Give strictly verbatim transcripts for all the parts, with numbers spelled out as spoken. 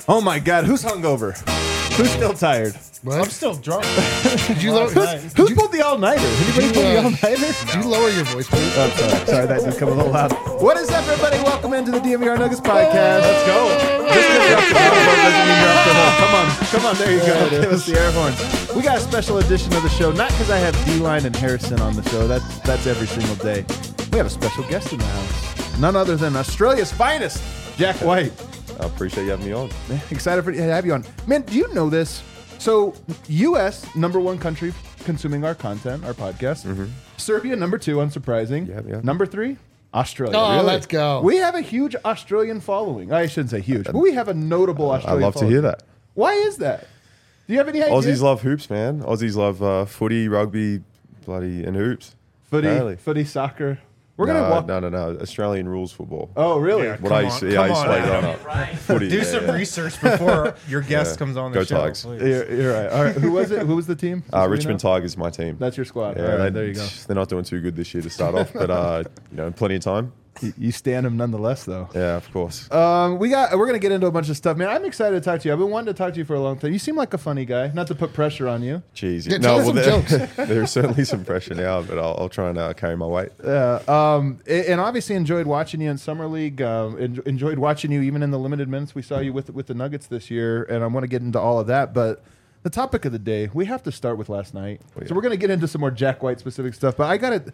Oh my God, who's hungover? Who's still tired? What? I'm still drunk. Did you lower? Who's, who's pulled the all-nighter? Anybody you, pull the uh, all-nighter? Did you lower your voice, please? Oh, sorry. Sorry, that did come a little loud. What is up, everybody? Welcome into the D M V R Nuggets podcast. Let's go. Just because you're up to the elbow doesn't mean you're up to the Come on. Come on. There you go. There it Give is. us the air horns. We got a special edition of the show, not because I have D-Line and Harrison on the show. That's, that's every single day. We have a special guest in the house. None other than Australia's finest, Jack White. I appreciate you having me on. Man, excited for to have you on. Man, do you know this? So, U S, number one country consuming our content, our podcast. Mm-hmm. Serbia, number two, unsurprising. Yeah, yeah. Number three, Australia. Oh, Really? let's go. We have a huge Australian following. I shouldn't say huge, but we have a notable I Australian love to following. hear that. Why is that? Do you have any idea? Aussies love hoops, man. Aussies love uh, footy, rugby, bloody, and hoops. footy, Apparently. footy, soccer. We're no, going to walk. No, no, no. Australian rules football. Oh, really? Yeah. what come I used on, to, yeah, I come used to on, play growing Adam. up. Footy, Do yeah, some yeah. research before your guest Yeah. comes on Go the show. Tigers. please. You're, you're right. All right. Who was it? Who was the team? Just so Uh, we Richmond know? Tigers, my team. That's your squad. Yeah, All right, they- there you go. They're not doing too good this year to start off, but uh, you know, plenty of time. You, you stand them nonetheless, though. Yeah, of course. Um, we got. We're gonna get into a bunch of stuff, man. I'm excited to talk to you. I've been wanting to talk to you for a long time. You seem like a funny guy. Not to put pressure on you. Jeez. Yeah, no, tell us some there- jokes. there's certainly some pressure now, but I'll, I'll try and uh, carry my weight. Yeah. Um, a- and obviously enjoyed watching you in summer league. Um, en- enjoyed watching you even in the limited minutes we saw you with with the Nuggets this year. And I want to get into all of that, but. The topic of the day, we have to start with last night. Oh, yeah. So we're going to get into some more Jack White specific stuff, but I got to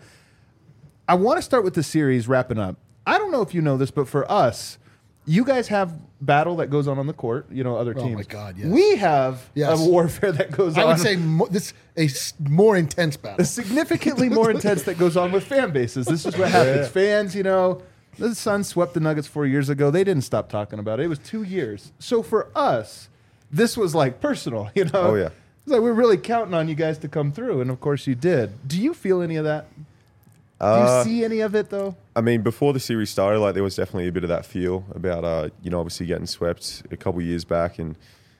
I want to start with the series wrapping up. I don't know if you know this, but for us, you guys have battle that goes on on the court, you know, other Oh, teams. my God, yes. We have Yes. a warfare that goes I on. would say mo- this a s- more intense battle. significantly more intense that goes on with fan bases. This is what happens. Fans, you know, the Suns swept the Nuggets four years ago. They didn't stop talking about it. It was two years. So for us, this was like personal, you know? Oh, yeah. It's like we're really counting on you guys to come through, and of course you did. Do you feel any of that? Do you Uh, see any of it, though? I mean, before the series started, like there was definitely a bit of that feel about, uh, you know, obviously getting swept a couple years back, and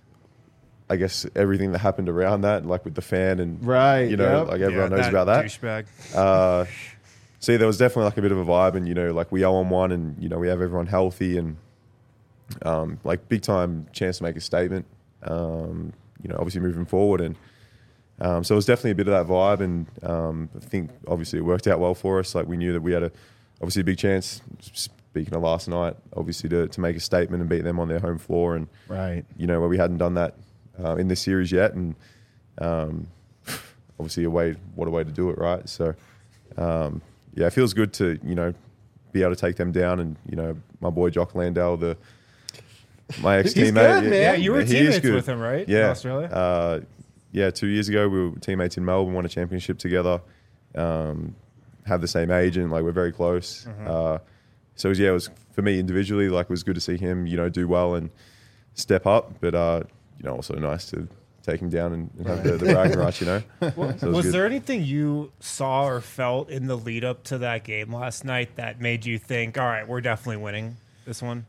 I guess everything that happened around that, like with the fan and Right, you know, yep. like everyone Yeah, knows about that. Douchebag. Uh, so yeah, there was definitely like a bit of a vibe, and you know, like we owe on one, and you know, we have everyone healthy, and um, like big time chance to make a statement. Um, you know, obviously moving forward, and um, so it was definitely a bit of that vibe, and um, I think obviously it worked out well for us. Like we knew that we had a obviously a big chance. Speaking of last night, obviously to to make a statement and beat them on their home floor, and Right. you know where we hadn't done that uh, in this series yet, and um, obviously a way what a way to do it, right? So um, yeah, it feels good to you know be able to take them down, and you know my boy Jock Landale, the my ex He's teammate, good, man. Yeah, you were he is teammates good. with him, right? Yeah, In Australia? Uh, yeah, two years ago we were teammates in Melbourne, won a championship together. Um, have the same agent, like we're very close. Mm-hmm. Uh, so it was, yeah, it was for me individually, like it was good to see him, you know, do well and step up. But uh, you know, also nice to take him down and, and have the, the bragging rights, you know. So it was good. there anything you saw or felt in the lead up to that game last night that made you think, all right, we're definitely winning this one?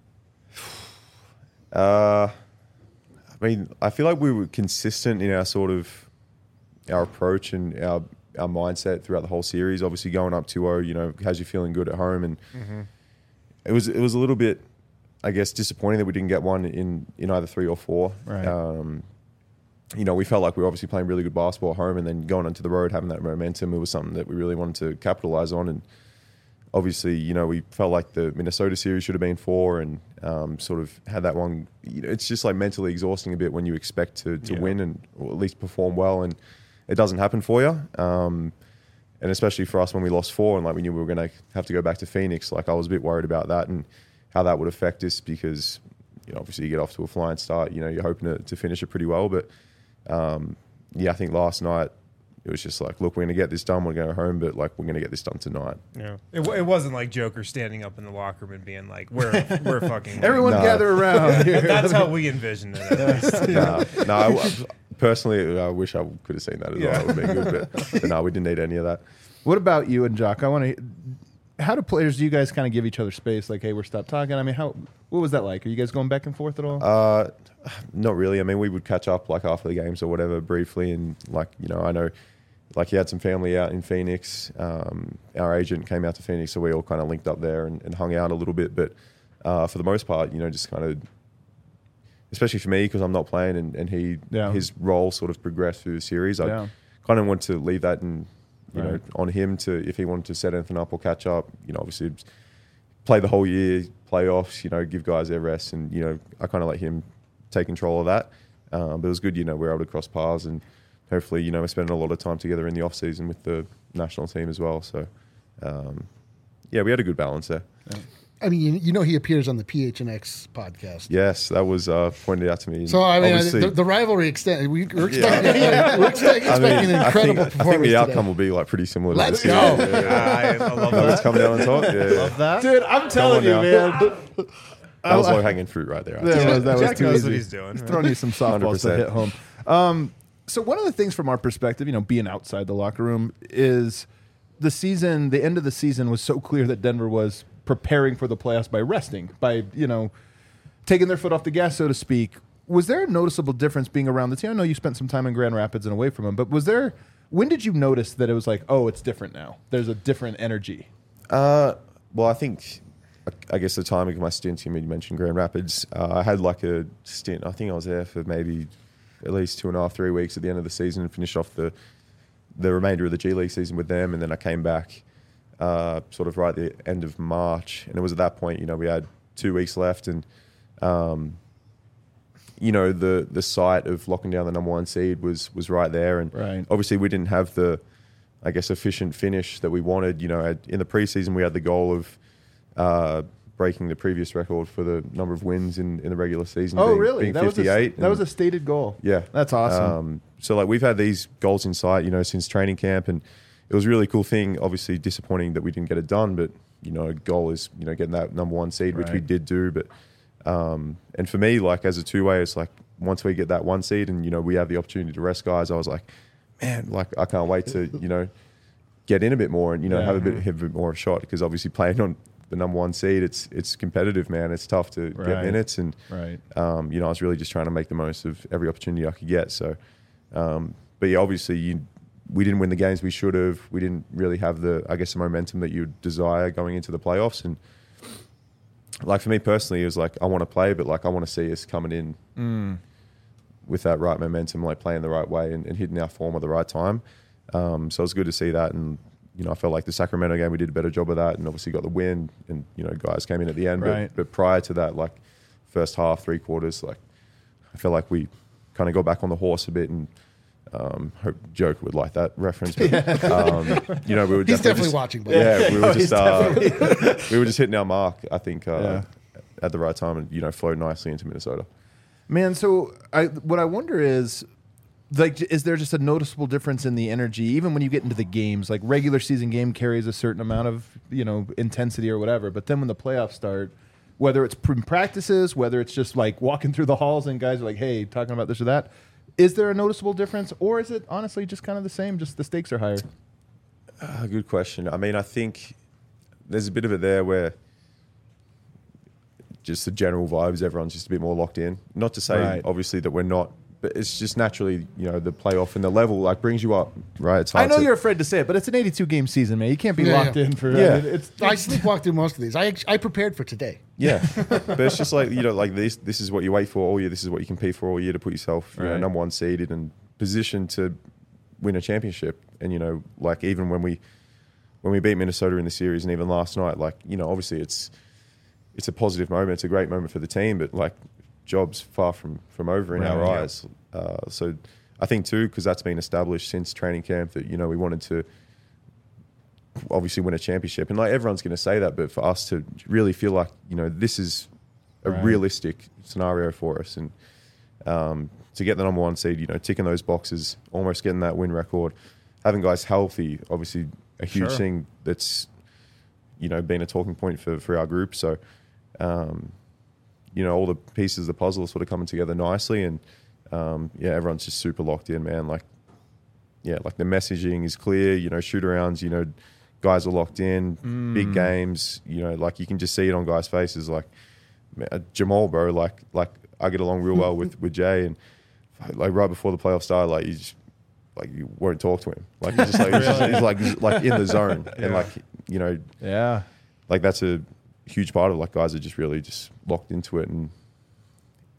Uh, I mean, I feel like we were consistent in our sort of our approach and our our mindset throughout the whole series. Obviously, going up two oh, you know, has you feeling good at home, and Mm-hmm. it was it was a little bit, I guess, disappointing that we didn't get one in in either three or four. Right. Um, you know, we felt like we were obviously playing really good basketball at home, and then going onto the road, having that momentum, it was something that we really wanted to capitalize on. And obviously, you know, we felt like the Minnesota series should have been four, and um, sort of had that one. You know, it's just like mentally exhausting a bit when you expect to to Yeah. win and or at least perform well, and it doesn't happen for you. Um, and especially for us when we lost four, and like we knew we were going to have to go back to Phoenix. Like I was a bit worried about that and how that would affect us, because you know, obviously you get off to a flying start. You know, you're hoping to, to finish it pretty well, but um, yeah, I think last night it was just like, look, we're going to get this done. We're going to go home, but like we're going to get this done tonight. Yeah. It, w- it wasn't like Joker standing up in the locker room and being like, we're we're fucking winning. Everyone No. gather around here. That's how we envisioned it. At least. Nah, no, I, I- personally, I wish I could have seen that as Yeah. well. It would have been good, but, but no, we didn't need any of that. What about you and Jock? I want to. How do players? Do you guys kind of give each other space? Like, hey, we're stop talking. I mean, how? What was that like? Are you guys going back and forth at all? Uh, not really. I mean, we would catch up like after the games or whatever briefly, and like you know, I know, like he had some family out in Phoenix. Um, our agent came out to Phoenix, so we all kind of linked up there and, and hung out a little bit. But uh, for the most part, you know, just kind of especially for me because I'm not playing and, and he Yeah. his role sort of progressed through the series. I Yeah. kind of want to leave that and you know Right. on him to if he wanted to set anything up or catch up. You know, obviously play the whole year, playoffs. You know, give guys their rest, and you know I kind of let him take control of that. Um, but it was good. You know, we we're able to cross paths and hopefully you know we're spending a lot of time together in the off season with the national team as well. So um, yeah, we had a good balance there. I mean, you, you know, he appears on the P H N X podcast. Yes, that was uh, pointed out to me. So I mean, I, Obviously- the, the rivalry extend. We, we're expecting, we're expecting, I mean, expecting an I incredible think, I performance think the outcome today. will be like pretty similar. Let's to this go. year. Yeah, yeah. I, I love Nuggets that. coming down on top. Yeah, yeah. Love that, dude. I'm telling on you, now. man. That was low hanging fruit right there. I'd That say. was, that was Jack too knows easy. what he's doing, He's right? throwing you some softballs one hundred to percent. hit home. Um, so one of the things from our perspective, you know, being outside the locker room, is the season. The end of the season was so clear that Denver was preparing for the playoffs by resting, by you know, taking their foot off the gas, so to speak. Was there a noticeable difference being around the team? I know you spent some time in Grand Rapids and away from them, but was there? When did you notice that it was like, oh, it's different now? There's a different energy. Uh, well, I think, I guess the timing of my stint, you mentioned Grand Rapids. Uh, I had like a stint. I think I was there for maybe at least two and a half, three weeks at the end of the season and finished off the the remainder of the G League season with them. And then I came back uh, sort of right at the end of March. And it was at that point, you know, we had two weeks left and, um, you know, the the sight of locking down the number one seed was was right there. And Right. obviously we didn't have the, I guess, efficient finish that we wanted. You know, at, in the preseason we had the goal of uh, breaking the previous record for the number of wins in, in the regular season. Oh, being, really? Being that was a, fifty-eight. that was a and- stated goal. yeah, That's awesome. Um, so like we've had these goals in sight, you know, since training camp, and it was a really cool thing. Obviously disappointing that we didn't get it done, but you know, a goal is you know getting that number one seed, which we Right. did do. But um, and for me, like as a two way, it's like once we get that one seed, and you know we have the opportunity to rest guys, I was like, man, like I can't wait to you know get in a bit more and you know Yeah. have a bit have a bit more of a shot because obviously playing on the number one seed, it's it's competitive, man. It's tough to Right. get minutes and. right. Um, you know, I was really just trying to make the most of every opportunity I could get. So, um, but yeah, obviously, you, we didn't win the games we should have. We didn't really have the, I guess, the momentum that you'd desire going into the playoffs. And like for me personally, it was like I want to play, but like I want to see us coming in Mm. with that right momentum, like playing the right way and, and hitting our form at the right time. Um, so it was good to see that. And you know, I felt like the Sacramento game we did a better job of that, and obviously got the win. And you know, guys came in at the end. Right. But, but prior to that, like first half, three quarters, like I felt like we kind of got back on the horse a bit. And um, hope Joke would like that reference. But, um, you know, we were He's definitely just- watching. But Yeah, we Oh, were he's just uh, we were just hitting our mark. I think uh, Yeah. at the right time, and you know, flowed nicely into Minnesota. Man, so I what I wonder is, like, is there just a noticeable difference in the energy, even when you get into the games? Like, regular season game carries a certain amount of you know intensity or whatever, but then when the playoffs start, whether it's in practices, whether it's just like walking through the halls and guys are like, "Hey, talking about this or that," is there a noticeable difference, or is it honestly just kind of the same? Just the stakes are higher. Uh, good question. I mean, I think there's a bit of it there where just the general vibes, everyone's just a bit more locked in. Not to say, Right. obviously, that we're not, but it's just naturally, you know, the playoff and the level like brings you up, right? It's I hard know to- you're afraid to say it, but it's an eighty-two game season, man. You can't be Yeah, locked yeah. in for. Yeah. I mean, it's I sleepwalked through most of these. I I prepared for today. Yeah, but it's just like you know, like this. This is what you wait for all year. This is what you compete for all year to put yourself, you know, Right. number one seeded and positioned to win a championship. And you know, like even when we when we beat Minnesota in the series, and even last night, like you know, obviously it's it's a positive moment. It's a great moment for the team, but like job's far from from over in Right, our yeah. eyes. Uh, so I think too, because that's been established since training camp, that you know we wanted to obviously win a championship, and like everyone's going to say that, but for us to really feel like you know this is a Right. realistic scenario for us, and um, to get the number one seed, you know, ticking those boxes, almost getting that win record, having guys healthy, obviously a huge Sure. thing that's you know been a talking point for for our group. So um, you know all the pieces of the puzzle are sort of coming together nicely, and um, yeah, everyone's just super locked in, man. Like yeah, like the messaging is clear. You know, shoot arounds, you know, guys are locked in. Mm. Big games, you know, like you can just see it on guys' faces. Like man, Jamal, bro, like like I get along real well with with Jay, and like right before the playoffs started, like you just like you won't talk to him. Like he's just like he's, just, he's like he's like in the zone, and like you know, yeah. like that's a huge part of like guys are just really just locked into it, and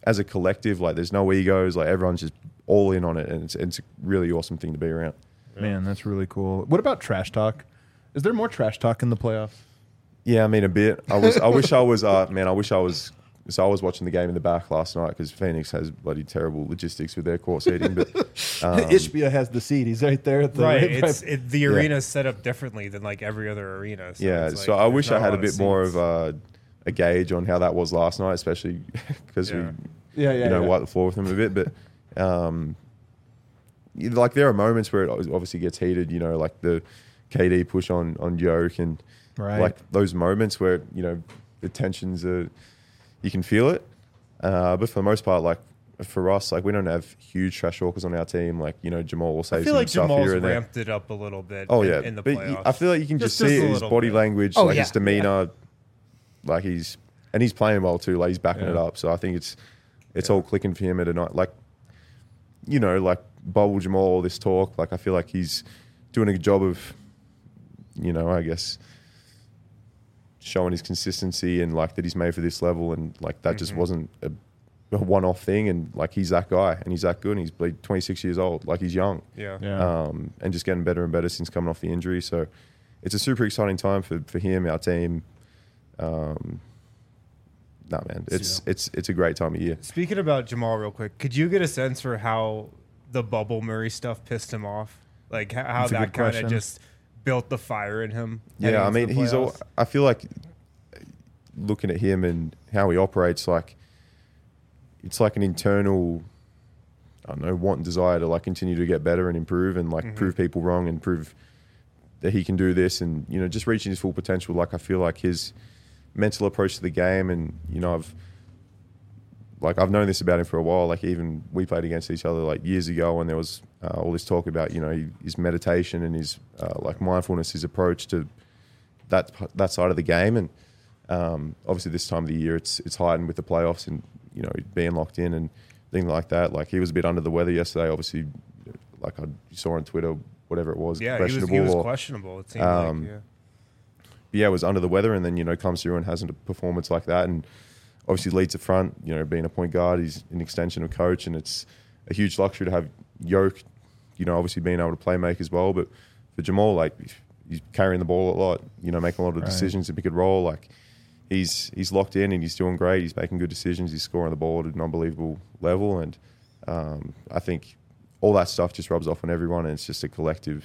as a collective, like there's no egos, like everyone's just all in on it, and it's, it's a really awesome thing to be around. Man, that's really cool. What about trash talk? Is there more trash talk in the playoffs? Yeah, I mean a bit. I was. I wish I was. Uh, man, I wish I was. So I was watching the game in the back last night because Phoenix has bloody terrible logistics with their court seating. But um, Ishbia has the seat. He's right there at the Right, right it's it, the Yeah. arena's set up differently than like every other arena. So yeah, it's so like, I there's wish not I had a lot bit more seats. of a, a gauge on how that was last night, especially because Yeah. we, Yeah, yeah, you know, yeah. wiped the floor with them a bit. But um, you- like there are moments where it obviously gets heated. You know, like the K D push on on Joke and Right. like those moments where you know the tensions are, you can feel it. Uh, but for the most part, like for us, like we don't have huge trash talkers on our team. Like you know, Jamal will say I feel some like stuff Jamal's here and there. ramped it up a little bit. Oh in, yeah, in the but playoffs. y- I feel like you can just, Just- see just a it, his little body bit. language, Oh, like yeah. his demeanor, like he's and he's playing well too. Like he's backing it Yeah. up. So I think it's it's all clicking for him at a night. Like you know, like Bubble Jamal, all this talk. Like I feel like he's doing a good job of, you know, I guess showing his consistency and like that he's made for this level, and like that just wasn't a, a one-off thing. And like he's that guy, and he's that good, and he's like twenty-six years old. Like he's young. yeah. Yeah. Um, and just getting better and better since coming off the injury. So it's a super exciting time for, for him, our team. Um, nah, man, it's it's it's a great time of year. Speaking about Jamal, real quick, could you get a sense for how the Bubble Murray stuff pissed him off? Like how, how That's a that good kind question. of just built the fire in him. heading Yeah, I into mean, the he's all. playoffs? I feel like looking at him and how he operates, like it's like an internal, I don't know, want and desire to like continue to get better and improve and like Mm-hmm. prove people wrong and prove that he can do this and you know just reaching his full potential. Like I feel like his mental approach to the game, and you know I've like I've known this about him for a while. Like even we played against each other like years ago, when there was uh, all this talk about you know his meditation and his uh, like mindfulness, his approach to that that side of the game. And um, obviously this time of the year, it's it's heightened with the playoffs and you know being locked in and things like that. Like he was a bit under the weather yesterday. Obviously, like I saw on Twitter, whatever it was, Yeah, he was, questionable. he was or- questionable. It seemed um, like. Yeah. yeah, was under the weather, and then you know comes through and has a performance like that, and obviously leads the front. You know, being a point guard, he's an extension of coach, and it's a huge luxury to have Yoke. You know, obviously being able to play make as well, but for Jamal, like he's carrying the ball a lot. You know, making a lot of Right. decisions if he could roll. Like he's he's locked in and he's doing great. He's making good decisions. He's scoring the ball at an unbelievable level, and um, I think all that stuff just rubs off on everyone, and it's just a collective.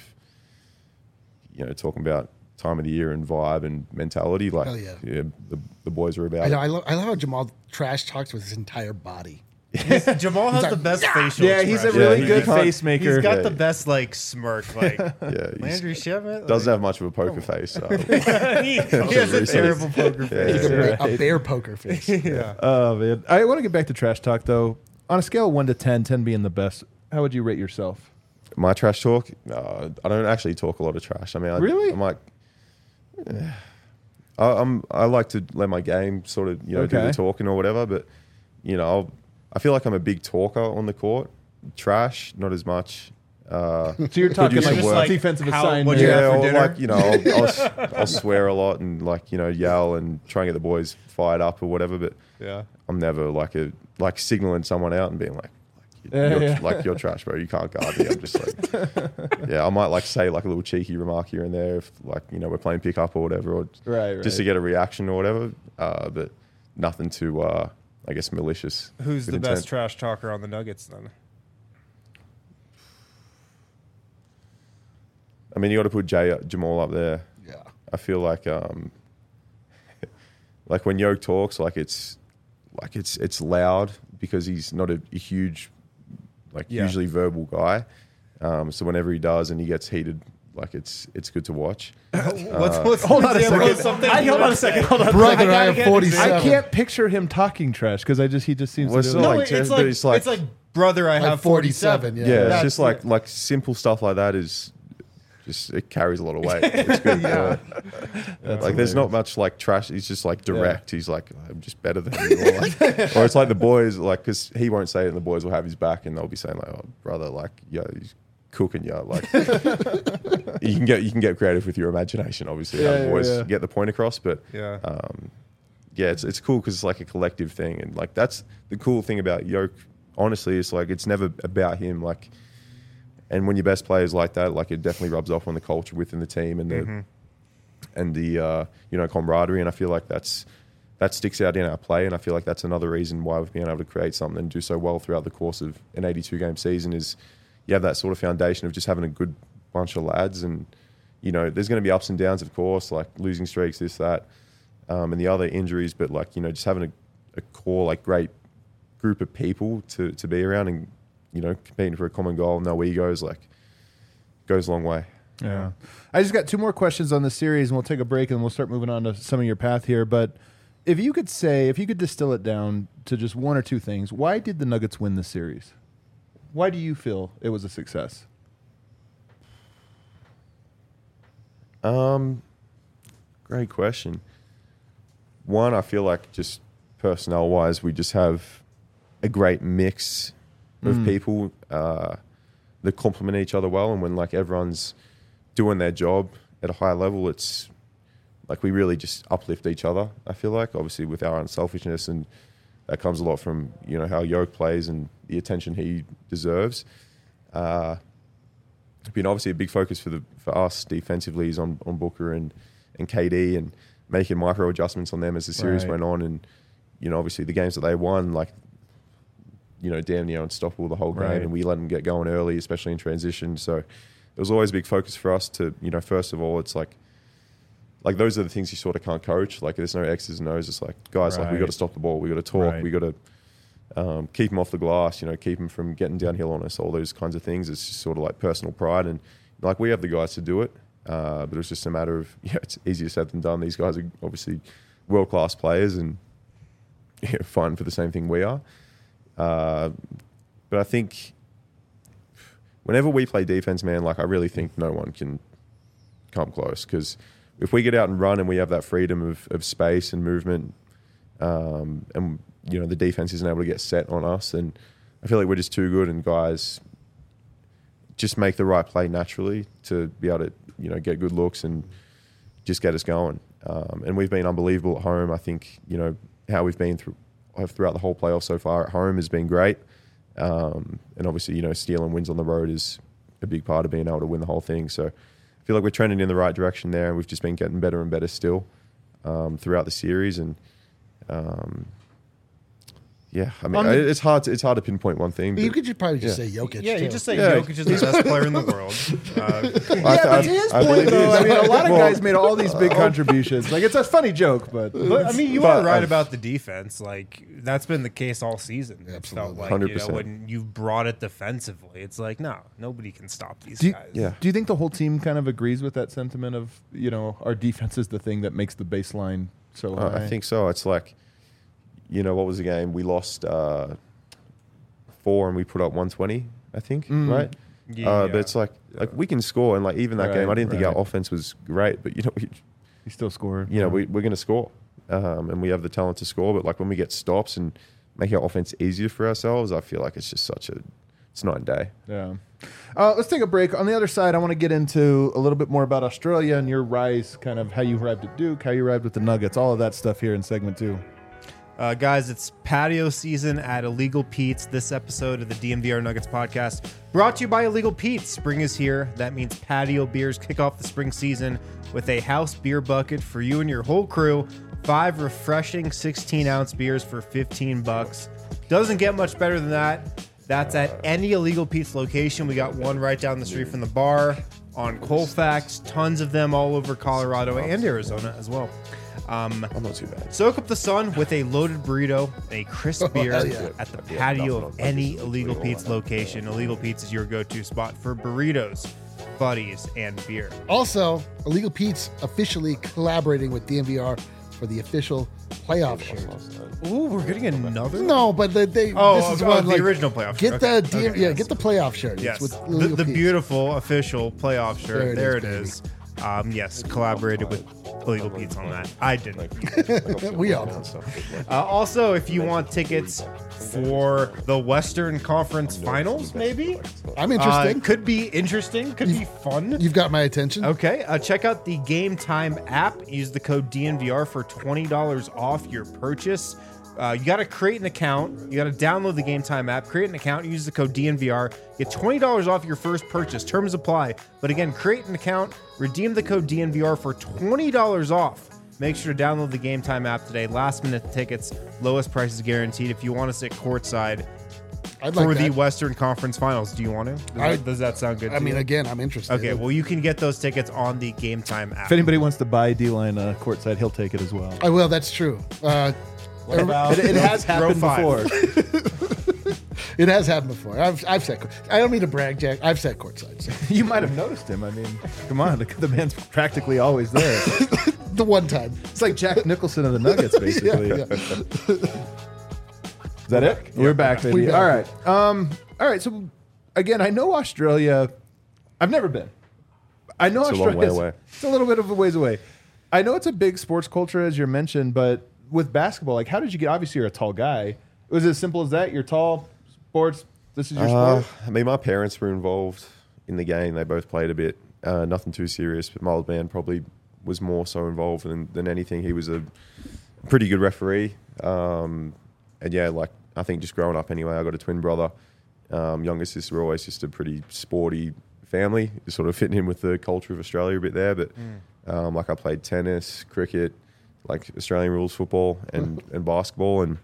You know, talking about time of the year and vibe and mentality. Like, Hell yeah. the, the boys are about I it. know. I love, I love how Jamal trash talks with his entire body. Jamal has like, the best facial. Yeah, he's a expression. really Yeah, good he can't- face maker. He's got Yeah. the best like smirk, like Yeah, he's- Landry Shamet. doesn't have much of a poker face. So. he, he has a Recently. terrible poker Yeah. face. He's a, Right. bear, a bear poker face. Yeah. Oh man, I want to get back to trash talk though. On a scale of one to ten, ten being the best, how would you rate yourself? My trash talk? Uh, I don't actually talk a lot of trash. I mean, I, Really? I'm like, eh. I, I'm I like to let my game sort of you know do Okay. the talking or whatever. But you know, I'll, I feel like I'm a big talker on the court. Trash, not as much. Uh, So you're talking use like, some just work. defensive How- assignment. what'd you yeah, have for or dinner? like you know, I'll, I'll, s- I'll swear a lot and like you know yell and try and get the boys fired up or whatever. But Yeah. I'm never like a like signaling someone out and being like, like, Yeah, you're, yeah. like you're trash, bro. You can't guard me. I'm just like, yeah. I might like say like a little cheeky remark here and there if like you know we're playing pickup or whatever, or Right, right. just to get a reaction or whatever. Uh, but nothing too, uh, I guess, malicious. Who's with the intent. best trash talker on the Nuggets then? I mean, you got to put Jay, Jamal up there. Yeah. I feel like um, like when Yoke talks, like it's like it's it's loud because he's not a, a huge, like Yeah. usually verbal guy. Um, so whenever he does and he gets heated, like it's it's good to watch. what's what's Hold on a example of second. something I, you hold on would a second. say? Hold on. Brother, gotta I get am an forty-seven. I can't picture him talking trash because I just he just seems Well, to it's do not it. No, like it's trash, like but it's like- it's like brother, I Like have forty-seven. Yeah. Yeah, it's That's just like it. like simple stuff like that is just it carries a lot of weight. It's good. yeah. That's Like there's not hilarious. much like trash. He's just like direct. He's like I'm just better than you. Or, like, or it's like the boys like because he won't say it and the boys will have his back and they'll be saying like oh brother like yeah he's cooking you like you can get you can get creative with your imagination obviously Yeah, how the yeah, boys yeah. get the point across but Yeah. um, yeah, it's it's cool because it's like a collective thing, and like that's the cool thing about Yoke. Honestly, it's like it's never about him. Like, and when your best players like that, like it definitely rubs off on the culture within the team and the Mm-hmm. and the uh, you know camaraderie. And I feel like that's that sticks out in our play, and I feel like that's another reason why we've been able to create something and do so well throughout the course of an eighty-two game season. Is you have that sort of foundation of just having a good bunch of lads, and you know there's going to be ups and downs, of course, like losing streaks, this that, um, and the other injuries, but like you know just having a, a core like great group of people to, to be around and, you know, competing for a common goal, no egos, like, goes a long way. Yeah. I just got two more questions on the series, and we'll take a break, and we'll start moving on to some of your path here. But if you could say, if you could distill it down to just one or two things, why did the Nuggets win the series? Why do you feel it was a success? Um, great question. One, I feel like just personnel-wise, we just have a great mix of Mm. people uh, that complement each other well, and when like everyone's doing their job at a high level, it's like we really just uplift each other. I feel like, obviously, with our unselfishness, and that comes a lot from you know how Yoke plays and the attention he deserves. Uh, been obviously a big focus for the for us defensively is on on Booker and and K D, and making micro adjustments on them as the series Right. went on, and you know obviously the games that they won, like. You know, damn near unstoppable the whole game, Right. and we let them get going early, especially in transition. So it was always a big focus for us to, you know, first of all, it's like, like those are the things you sort of can't coach. Like there's no X's and O's. It's like, guys, like we Right. got to stop the ball. We got to talk. Right. We got to um, keep them off the glass. You know, keep them from getting downhill on us. All those kinds of things. It's just sort of like personal pride, and like we have the guys to do it. Uh, but it's just a matter of yeah, it's easier said than done. These guys are obviously world class players and yeah, fighting for the same thing we are. Uh, but I think whenever we play defense, man, like I really think no one can come close, because if we get out and run and we have that freedom of, of space and movement, um, and you know the defense isn't able to get set on us, and I feel like we're just too good, and guys just make the right play naturally to be able to you know get good looks and just get us going. Um, and we've been unbelievable at home. I think you know how we've been through throughout the whole playoff so far at home has been great. Um, and obviously, you know, stealing wins on the road is a big part of being able to win the whole thing. So I feel like we're trending in the right direction there, and we've just been getting better and better still um, throughout the series. And um, yeah, I mean, On the- it's hard to it's hard to pinpoint one thing. But you but could just probably just yeah. say Jokic. Yeah, too. you just say Yeah. Jokic is the best player in the world. Uh, I- Yeah, I- but to his I point, believe though, he is. I mean, a lot of Well, guys made all these big contributions. Like, it's a funny joke, but but I mean, you But are right I've- about the defense. Like that's been the case all season. It Absolutely. felt like one hundred you know percent. when you brought it defensively, it's like no, nobody can stop these do you, guys. Yeah. do you think the whole team kind of agrees with that sentiment of, you know, our defense is the thing that makes the baseline so Uh, high? I think so. It's like, you know, what was the game? We lost uh, four and we put up one twenty, I think, Mm. right? Yeah. Uh, but it's like, like we can score, and like even that Right, game, I didn't think right. our offense was great, but you know, we, He still scored. you know, we, we're going to score, um, and we have the talent to score. But like when we get stops and make our offense easier for ourselves, I feel like it's just such a, it's night and day. Yeah. Uh, let's take a break. On the other side, I want to get into a little bit more about Australia and your rise, kind of how you arrived at Duke, how you arrived with the Nuggets, all of that stuff here in segment two. Uh, guys, it's patio season at Illegal Pete's. This episode of the D M V R Nuggets podcast brought to you by Illegal Pete's. Spring is here. That means patio beers kick off the spring season with a house beer bucket for you and your whole crew. Five refreshing sixteen ounce beers for fifteen bucks. Doesn't get much better than that. That's at any Illegal Pete's location. We got one right down the street from the bar on Colfax. Tons of them all over Colorado and Arizona as well. Um, I'm not too bad. Soak up the sun with a loaded burrito, a crisp beer hell yeah. at the Yeah, patio nothing of on any Sundays. Illegal All Pete's that. location. Illegal Pete's is your go-to spot for burritos, buddies, and beer. Also, Illegal Pete's officially collaborating with D M V R for the official playoff shirt. Ooh, we're getting another. No, but the, they Oh, this is oh, one the like, original playoff Get shirt. the Okay, D M, okay, yeah, yes. get the playoff shirt. It's Yes, with the, Illegal the Pete's. beautiful official playoff shirt. There it There is, it is. Um, yes, collaborated with Illegal Pete's on that. I didn't. We all know. Uh, also, if you want tickets for the Western Conference Finals, maybe I'm uh, interested. it could be interesting. Could be fun. You've got my attention. Okay, uh, check out the Game Time app. Use the code D N V R for twenty dollars off your purchase. Uh, you got to create an account. You got to download the Game Time app, create an account, use the code D N V R, get twenty dollars off your first purchase. Terms apply. But again, create an account, redeem the code D N V R for twenty dollars off. Make sure to download the Game Time app today. Last minute tickets, lowest prices guaranteed. If you want to sit courtside I'd for like the that. Western Conference Finals, do you want to? Does, I- that, does that sound good I to mean, you? again, I'm interested. Okay, well, you can get those tickets on the Game Time app. If anybody wants to buy D-Line uh, courtside, he'll take it as well. I will. That's true. Uh, What about It, it has row happened five? before. it has happened before. I've I've sat. I don't mean to brag, Jack. I've sat courtside. So. You might have noticed him. I mean, come on, the, the man's practically always there. The one time. It's like Jack Nicholson of the Nuggets, basically. Yeah, yeah. Is that it? We're back, baby. We back. All right. Um. All right. So, again, I know Australia. I've never been. I know It's a long Australia. way away. It's a little bit of a ways away. I know it's a big sports culture, as you mentioned, but with basketball, like, how did you get? Obviously, you're a tall guy. Was it as simple as that? You're tall. Sports. This is your Uh, sport. I mean, my parents were involved in the game. They both played a bit. Uh, nothing too serious, but my old man probably was more so involved than, than anything. He was a pretty good referee. Um, and yeah, like, I think just growing up anyway, I got a twin brother. Um, younger sister, we're always just a pretty sporty family, just sort of fitting in with the culture of Australia a bit there. But um, like, I played tennis, cricket, like Australian rules football and, and basketball. And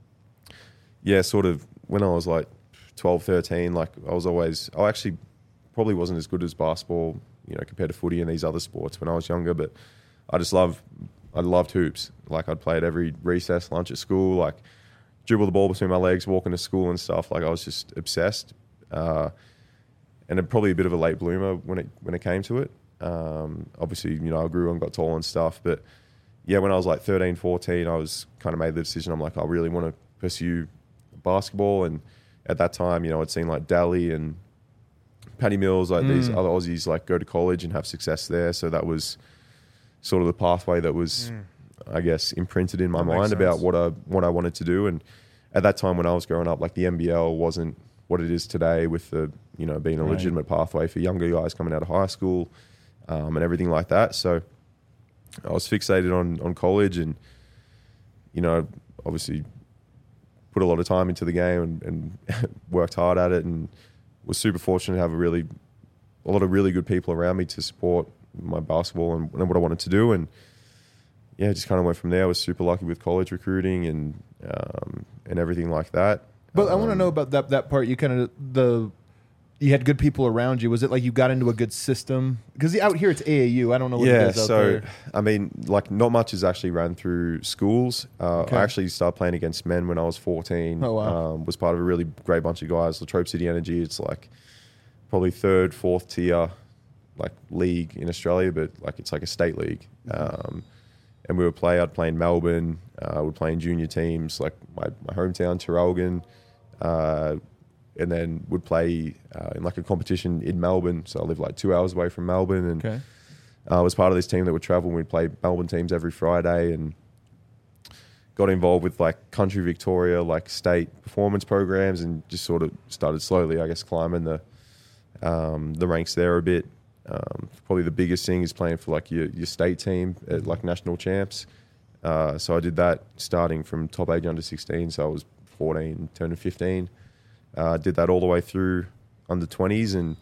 yeah, sort of when I was like twelve, thirteen, like I was always, I actually probably wasn't as good as basketball, you know, compared to footy and these other sports when I was younger, but I just love, I loved hoops. Like, I'd play at every recess, lunch at school, like dribble the ball between my legs, walking to school and stuff. Like, I was just obsessed. Uh, and it, probably a bit of a late bloomer when it, when it came to it. Um, obviously, you know, I grew and got tall and stuff, but yeah, when I was like thirteen, fourteen, I was kind of made the decision. I'm like, I really want to pursue basketball. And at that time, you know, I'd seen like Daly and Paddy Mills, like these other Aussies, like go to college and have success there. So that was sort of the pathway that was, I guess, imprinted in my That makes mind about sense. what I what I wanted to do. And at that time when I was growing up, like the N B L wasn't what it is today, with the, you know, being a Right. legitimate pathway for younger guys coming out of high school um, and everything like that. So I was fixated on on college, and you know, obviously put a lot of time into the game and, and worked hard at it, and was super fortunate to have a really a lot of really good people around me to support my basketball and, and what I wanted to do. And yeah, just kind of went from there. I was super lucky with college recruiting and um, and everything like that. But I want to Um, know about that that part. You kind of the you had good people around you. Was it like you got into a good system? Because out here it's A A U. I don't know what Yeah, it is out so there. I mean, like, not much is actually ran through schools. Uh, Okay. I actually started playing against men when I was fourteen. Oh, wow. Um, was part of a really great bunch of guys. Latrobe City Energy. It's like probably third, fourth tier, like, league in Australia, but like it's like a state league. Um, and we would play. I'd play in Melbourne. Uh, we'd play in junior teams, like my, my hometown, Traralgon. Uh, and then would play uh, in like a competition in Melbourne. So I live like two hours away from Melbourne, and Okay. I was part of this team that would travel, and we'd play Melbourne teams every Friday, and got involved with like Country Victoria, like state performance programs, and just sort of started slowly, I guess, climbing the um, the ranks there a bit. Um, probably the biggest thing is playing for like your, your state team at like national champs. Uh, so I did that starting from top age under sixteen. So I was fourteen, turning fifteen. Uh, did that all the way through under twenties, and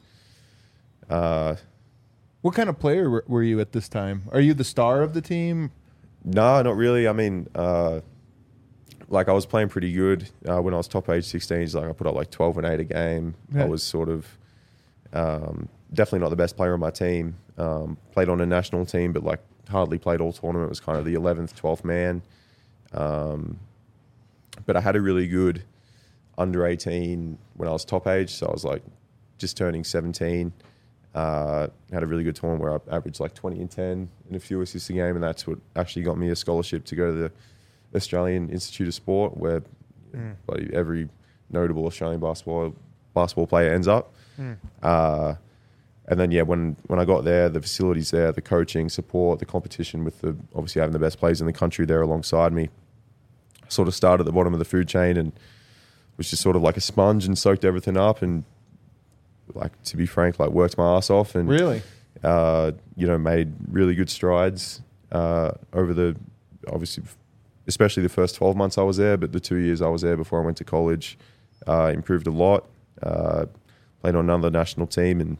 uh, What kind of player were, were you at this time? Are you the star of the team? no, not really. I mean, uh, like I was playing pretty good uh, when I was top age sixteen. Like I put up like twelve and eight a game. Yeah. I was sort of um, definitely not the best player on my team. Um, played on a national team, but like hardly played all tournament. Was kind of the eleventh, twelfth man. Um, but I had a really good under eighteen when I was top age. So I was like just turning seventeen. Uh, had a really good tournament where I averaged like twenty and ten and a few assists a game, and that's what actually got me a scholarship to go to the Australian Institute of Sport, where Mm. like, every notable Australian basketball basketball player ends up. Mm. Uh, and then yeah, when when I got there, the facilities there, the coaching, support, the competition with the obviously having the best players in the country there alongside me, I sort of started at the bottom of the food chain and was just sort of like a sponge and soaked everything up and, like, to be frank, like worked my ass off and Really? uh, you know, made really good strides uh, over the obviously, especially the first twelve months I was there, but the two years I was there before I went to college, uh, improved a lot. Uh, played on another national team and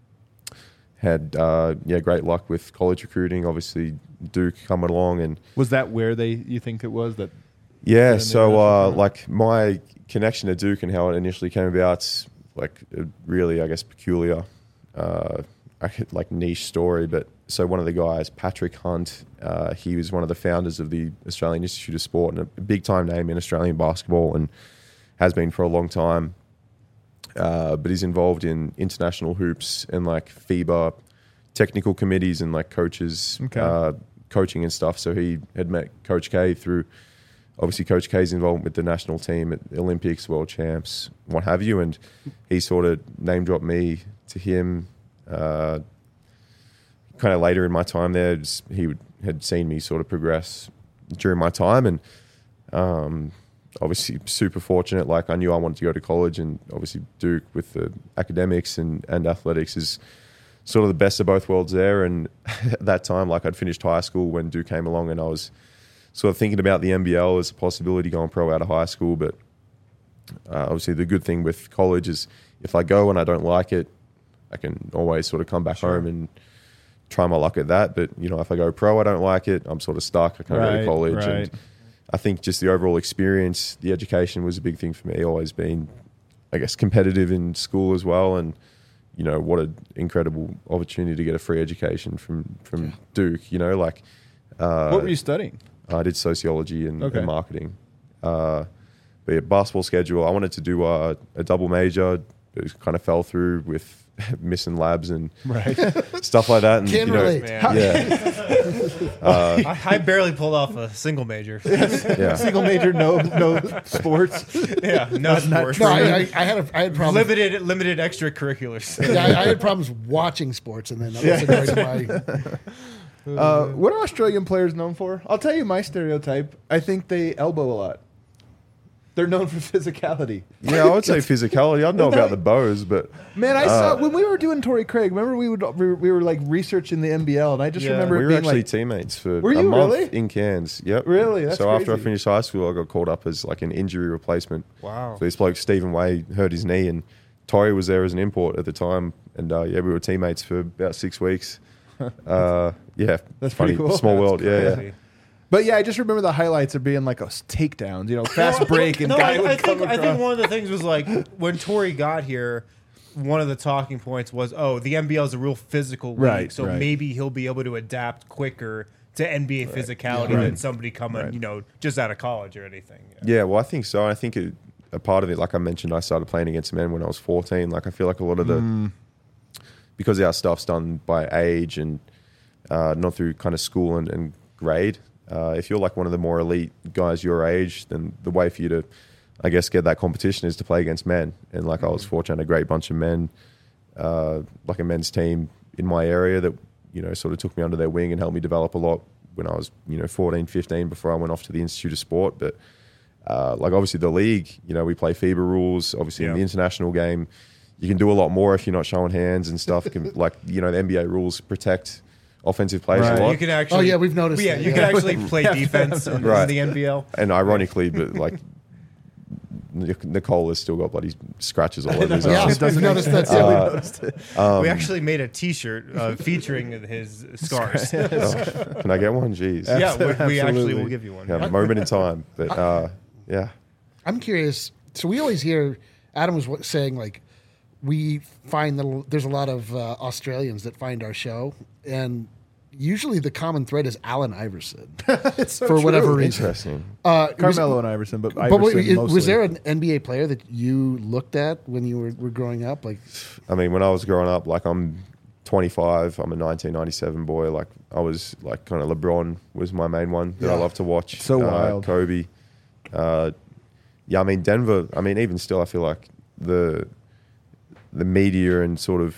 had uh, yeah great luck with college recruiting. Obviously, Duke coming along and Was that where they you think it was that? yeah. an So international uh, tournament? like my connection to Duke and how it initially came about, like a really I guess peculiar, uh, I could- like niche story. But so one of the guys, Patrick Hunt, uh, he was one of the founders of the Australian Institute of Sport and a big time name in Australian basketball and has been for a long time. Uh, but he's involved in international hoops and like FIBA technical committees and like coaches, Okay. uh, coaching and stuff. So he had met Coach K through, obviously Coach K's involvement with the national team at Olympics, World Champs, what have you. And he sort of name dropped me to him. Uh, kind of later in my time there, just, he would, had seen me sort of progress during my time and um, obviously super fortunate. Like I knew I wanted to go to college and obviously Duke with the academics and, and athletics is sort of the best of both worlds there. And at that time, like I'd finished high school when Duke came along and I was sort of thinking about the N B L as a possibility going pro out of high school. But uh, obviously the good thing with college is if I go and I don't like it, I can always sort of come back Sure. home and try my luck at that. But, you know, if I go pro, I don't like it, I'm sort of stuck. I can't go Right, to college. right. And I think just the overall experience, the education was a big thing for me. Always been, I guess, competitive in school as well. And, you know, what an incredible opportunity to get a free education from, from Yeah. Duke, you know, like. Uh, What were you studying? I did sociology and, Okay. and marketing. Uh, but yeah, basketball schedule, I wanted to do a, a double major, but it kind of fell through with missing labs and Right. stuff like that. And, Can you know, relate. Man. Yeah. uh, I, I barely pulled off a single major. yeah. Single major, no no sports. yeah, no sports. No, I, I, I had a, I had problems. limited limited extracurriculars. Yeah, I, I had problems watching sports, and then I wasn't going to my. Uh, what are Australian players known for? I'll tell you my stereotype. I think they elbow a lot. They're known for physicality. Yeah, I would say physicality. I don't know about the bows, but Man, I Uh, saw when we were doing Torrey Craig. Remember we would we were, we were like researching the N B L, and I just Yeah. remember we it were being actually like, teammates for Were a you month really? in Cairns. Yep. Really? That's so after I crazy. finished high school, I got called up as like an injury replacement. Wow. So this bloke, Stephen Way, hurt his knee, and Torrey was there as an import at the time. And uh, yeah, we were teammates for about six weeks. Uh, yeah, That's funny. pretty cool. Small That's world. Yeah, yeah. crazy. but yeah, I just remember the highlights of being like a takedowns, you know, fast break, and no, guy I, would I come think I across. think one of the things was like when Tori got here, one of the talking points was, oh, the N B L is a real physical league, Right, so right. maybe he'll be able to adapt quicker to N B A physicality Yeah. than Right. somebody coming, Right. you know, just out of college or anything. Yeah, well, I think so. I think it, a part of it, like I mentioned, I started playing against men when I was fourteen. Like I feel like a lot of the, Mm. because our stuff's done by age and uh, not through kind of school and, and grade. Uh, if you're like one of the more elite guys your age, then the way for you to, I guess, get that competition is to play against men. And like I was fortunate, a great bunch of men, uh, like a men's team in my area that, you know, sort of took me under their wing and helped me develop a lot when I was, you know, fourteen, fifteen before I went off to the Institute of Sport. But uh, like obviously the league, you know, we play FIBA rules. Obviously in Yeah. the international game, you can do a lot more if you're not showing hands and stuff. Can, like, you know, the N B A rules protect offensive players Right. a lot. You can actually. Oh, yeah, we've noticed Yeah, that, you yeah. can actually play defense in, Right. in the N B L. And ironically, but like Nic- Nicole has still got bloody scratches all over his Yeah, arms. I've noticed that. Yeah, we too. noticed it. Um, we actually made a T-shirt uh, featuring his scars. yeah, oh, can I get one? Jeez. we, we actually Absolutely. will give you one. Yeah, moment in time. But uh, yeah. I'm curious. So we always hear Adam was wa- saying like we find that there's a lot of uh, Australians that find our show, and usually the common thread is Allen Iverson It's so for true. whatever reason. Interesting. Uh, was- Carmelo and Iverson, but But Iverson wait, was mostly. there an N B A player that you looked at when you were, were growing up? Like, I mean, when I was growing up, like I'm twenty-five, I'm a nineteen ninety-seven boy. Like I was like kind of LeBron was my main one that I Yeah. love to watch. So uh, wild. Kobe. Uh, yeah, I mean Denver. I mean, even still, I feel like the the media and sort of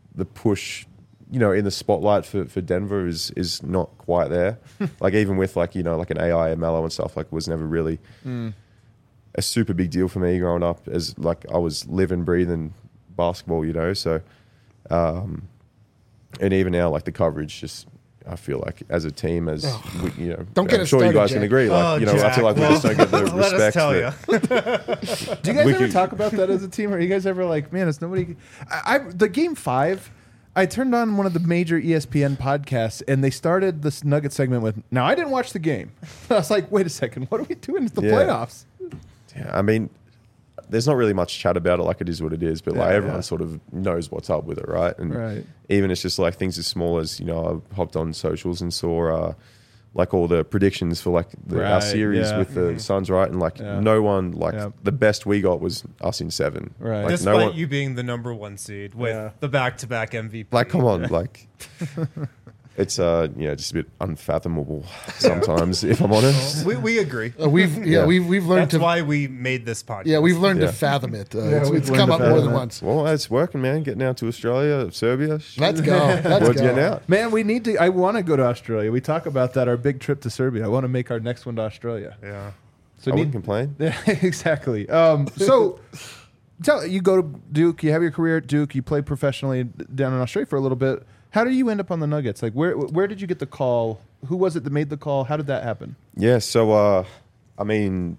the push, you know, in the spotlight for, for Denver is is not quite there. Like even with like, you know, like an A I and Melo and stuff, like was never really Mm. a super big deal for me growing up, as like I was living, breathing basketball, you know. So, um, and even now, like the coverage, just I feel like as a team, as we, you know, Don't get I'm us sure you started, guys can Jack. agree. Like Oh, you know, I Jack, feel like we well, just don't get the let us respect. tell that- Do you guys We ever could- talk about that as a team? Are you guys ever like, man, it's nobody? I, I the game five. I turned on one of the major E S P N podcasts, and they started this Nugget segment with, "Now I didn't watch the game." I was like, "Wait a second, what are we doing in the Yeah. playoffs?" Yeah, I mean, there's not really much chat about it. Like it is what it is, but like Yeah, everyone yeah. sort of knows what's up with it, right? And Right. even it's just like things as small as, you know, I hopped on socials and saw uh, like all the predictions for like the, our Right, series yeah. with the Suns, right? And like Yeah. no one, like Yeah. the best we got was us in seven. Right. Like, Despite no one, you being the number one seed with Yeah. the back-to-back M V P. like, come on, like it's uh, you know, just a bit unfathomable sometimes, if I'm honest. We, we agree. Uh, we've yeah, Yeah. we've we've learned That's to why we made this podcast. yeah we've learned Yeah. to fathom it. Uh, Yeah, it's we've it's learned come to up more fathom than it. once. Well, it's working, man. Getting out to Australia, Serbia. Let's go. Let's Word's go. getting out. Man, we need to. I want to go to Australia. We talk about that. Our big trip to Serbia. I want to make our next one to Australia. Yeah. So I need wouldn't complain. Yeah, exactly. Um, so, tell you go to Duke. You have your career at Duke. You played professionally down in Australia for a little bit. How did you end up on the Nuggets? Like, where where did you get the call? Who was it that made the call? How did that happen? Yeah, so uh, I mean,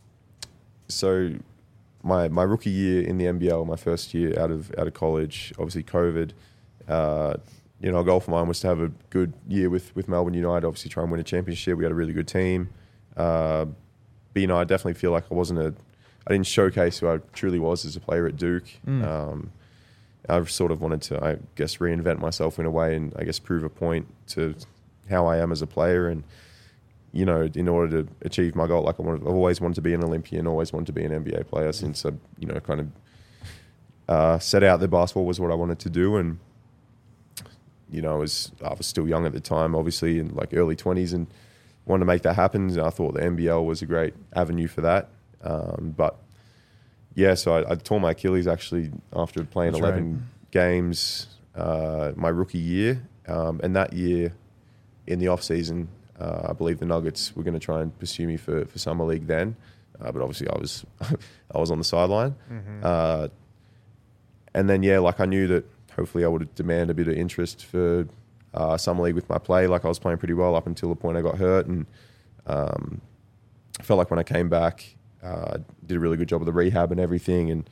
so my my rookie year in the N B L, my first year out of out of college, obviously COVID. Uh, you know, a goal for mine was to have a good year with with Melbourne United. Obviously, try and win a championship. We had a really good team. Uh, but you know, I definitely feel like I wasn't a, I didn't showcase who I truly was as a player at Duke. Mm. Um, I sort of wanted to, I guess, reinvent myself in a way, and I guess prove a point to how I am as a player. And you know, in order to achieve my goal, like I wanted, I've always wanted to be an Olympian, always wanted to be an N B A player since I, you know, kind of uh, set out that basketball was what I wanted to do. And you know, I was I was still young at the time, obviously in like early twenties, and wanted to make that happen. And I thought the N B L was a great avenue for that. Um, but yeah, so I, I tore my Achilles actually after playing That's eleven right. games uh, my rookie year, um, and that year in the off season. Uh, I believe the Nuggets were going to try and pursue me for, for summer league then, uh, but obviously I was I was on the sideline. Mm-hmm. Uh, and then yeah, like I knew that hopefully I would demand a bit of interest for uh, summer league with my play. Like I was playing pretty well up until the point I got hurt, and um, I felt like when I came back, uh, did a really good job of the rehab and everything, and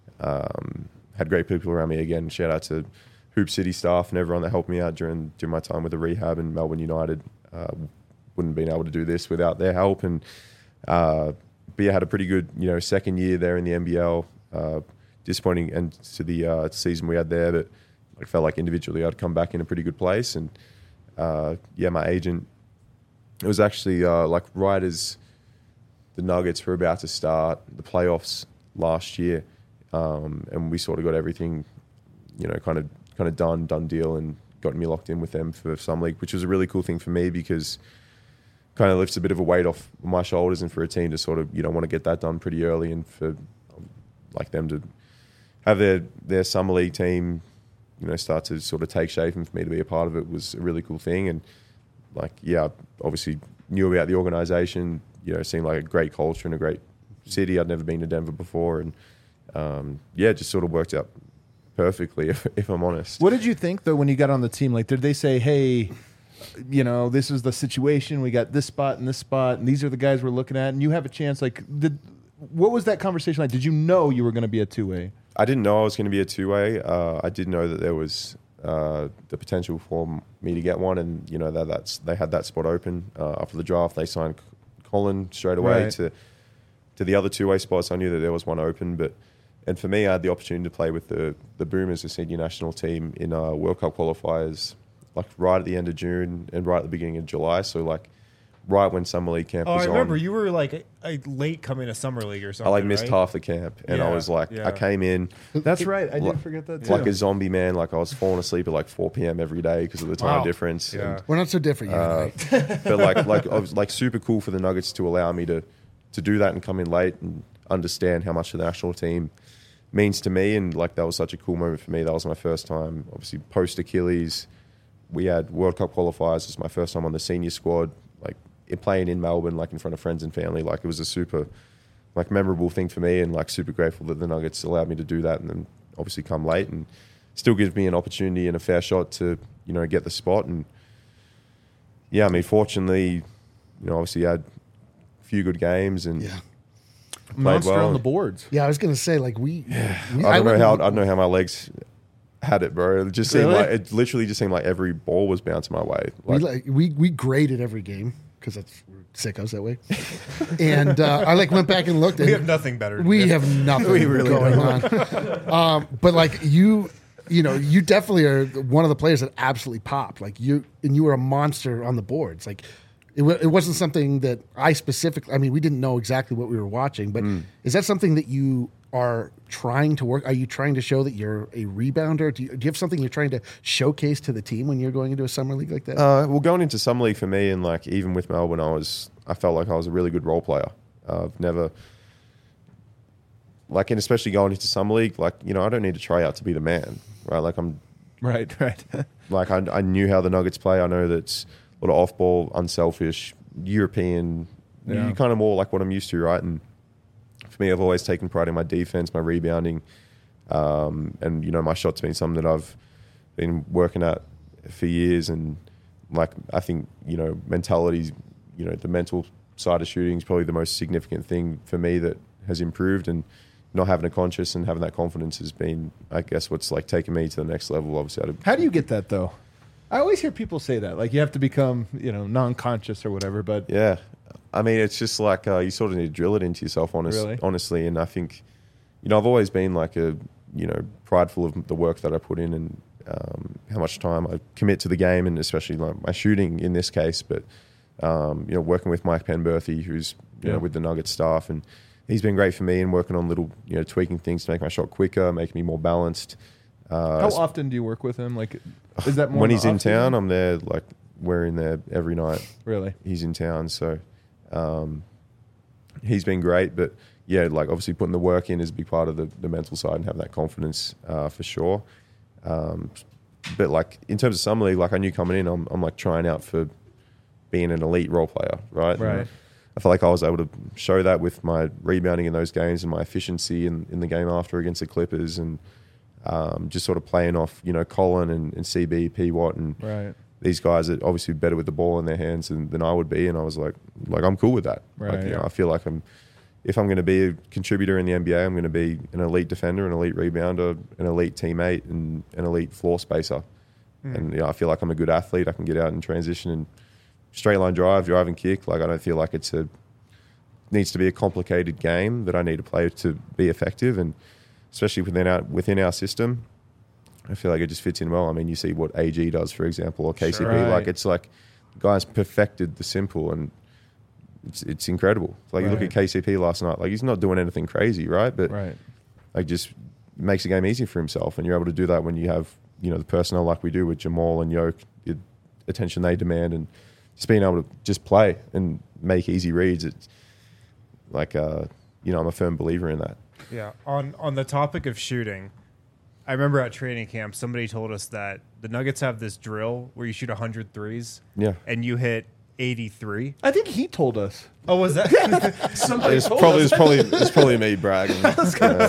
um, had great people around me again. Shout out to Hoop City staff and everyone that helped me out during during my time with the rehab in Melbourne United. Uh, wouldn't have been able to do this without their help. And uh, but yeah, had a pretty good, you know, second year there in the N B L. Uh, disappointing end to the uh, season we had there, but I felt like individually I'd come back in a pretty good place. And uh, yeah, my agent, it was actually uh, like right as the Nuggets were about to start the playoffs last year, um, and we sort of got everything, you know, kind of kind of done, done deal, and got me locked in with them for Summer League, which was a really cool thing for me because kind of lifts a bit of a weight off my shoulders, and for a team to sort of, you know, want to get that done pretty early, and for like them to have their, their Summer League team, you know, start to sort of take shape, and for me to be a part of it was a really cool thing. And like, yeah, I obviously knew about the organization, you know, seemed like a great culture and a great city. I'd never been to Denver before, and um, yeah, it just sort of worked out perfectly, if, if I'm honest. What did you think though when you got on the team? Like, did they say, "Hey, you know, this is the situation. We got this spot and this spot, and these are the guys we're looking at, and you have a chance"? Like, did what was that conversation like? Did you know you were going to be a two way? I didn't know I was going to be a two-way. Uh, I did know that there was uh, the potential for me to get one, and you know that that's they had that spot open uh, after the draft. They signed Colin straight away Right. to to the other two-way spots. I knew that there was one open, but and for me, I had the opportunity to play with the the Boomers, the senior national team, in uh, World Cup qualifiers, like right at the end of June and right at the beginning of July. So like right when Summer League camp Oh, was I remember on. you were like a, a late coming to summer league or I something. like missed right? half the camp, and I Yeah, was like, yeah. I came in. That's right. I did Like- forget that too. Like a zombie, man. Like I was falling asleep at like four p.m. every day because of the time Wow. difference. Yeah. And, We're not so different, you uh, and I. but like, like I was like super cool for the Nuggets to allow me to to do that and come in late and understand how much the national team means to me. And like that was such a cool moment for me. That was my first time, obviously post Achilles. We had World Cup qualifiers. It was my first time on the senior squad, like it, playing in Melbourne, like in front of friends and family. Like it was a super, like memorable thing for me, and like super grateful that the Nuggets allowed me to do that, and then obviously come late and still gives me an opportunity and a fair shot to, you know, get the spot. And yeah, I mean, fortunately, you know, obviously I had a few good games and Yeah. played Monster well. on the boards. Yeah, I was gonna say like we. we I don't know went- how I don't know how my legs had it, bro. It just seemed Really? like it literally just seemed like every ball was bouncing my way. we Like, like we we graded every game because that's we're sickos that way. And uh, I like went back and looked. We and have nothing better to We do. have nothing We really going on. um, but like you, you know, you definitely are one of the players that absolutely popped. Like you, and you were a monster on the boards. Like it, wa- it wasn't something that I specifically. I mean, we didn't know exactly what we were watching, but is that something that you are trying to work? Are you trying to show that you're a rebounder? Do you, do you have something you're trying to showcase to the team when you're going into a summer league like that? Uh, well, going into summer league for me, and like even with Melbourne, I was I felt like I was a really good role player. Uh, I've never like, and especially going into summer league, like you know, I don't need to try out to be the man, right? Like I'm Right, right. like I, I knew how the Nuggets play. I know that it's a lot of off ball, unselfish, European. Yeah. You're kind of more like what I'm used to, right? And for me, I've always taken pride in my defense, my rebounding, um, and you know, my shot's been something that I've been working at for years. And like, I think you know, mentality, you know, the mental side of shooting is probably the most significant thing for me that has improved. And not having a conscious and having that confidence has been, I guess, what's like taking me to the next level. Obviously, I'd- How do you get that though? I always hear people say that, like you have to become, you know, non-conscious or whatever. But yeah, I mean, it's just like uh, you sort of need to drill it into yourself, honest, Really? honestly. And I think, you know, I've always been like a, you know, prideful of the work that I put in and um, how much time I commit to the game, and especially like my shooting in this case. But um, you know, working with Mike Penberthy, who's you Yeah. know with the Nuggets staff, and he's been great for me and working on little, you know, tweaking things to make my shot quicker, making me more balanced. Uh, how often do you work with him? Like, is that more when in he's the in off-season? town, I'm there. Like we're in there every night. Really? He's in town, so um, he's been great. But yeah, like obviously putting the work in is a big part of the, the mental side and having that confidence uh, for sure. Um, but like in terms of summer league, like I knew coming in, I'm, I'm like trying out for being an elite role player, right? Right. And I felt like I was able to show that with my rebounding in those games and my efficiency in, in the game after against the Clippers, and um, just sort of playing off, you know, Colin and, and C B, P Watt, and Right. these guys are obviously better with the ball in their hands than, than I would be. And I was like, like I'm cool with that. Right, Like, you know, yeah. I feel like I'm, if I'm going to be a contributor in the N B A, I'm going to be an elite defender, an elite rebounder, an elite teammate, and an elite floor spacer. Hmm. And you know, I feel like I'm a good athlete. I can get out and transition and straight line drive, drive and kick. Like I don't feel like it's a needs to be a complicated game that I need to play to be effective. And especially within our within our system, I feel like it just fits in well. I mean, you see what A G does, for example, or K C P. Sure. Like Right. it's like guys perfected the simple, and it's it's incredible. Like you look Right. at K C P last night. Like he's not doing anything crazy, right? But Right. like just makes the game easy for himself, and you're able to do that when you have you know the personnel like we do with Jamal and Yoke, the attention they demand, and just being able to just play and make easy reads. It's like uh, you know I'm a firm believer in that. Yeah. On on the topic of shooting, I remember at training camp somebody told us that the Nuggets have this drill where you shoot one hundred threes Yeah. and you hit eighty-three. I think he told us. Oh, was that? Somebody It's told probably us. it's probably it's probably me bragging. Uh,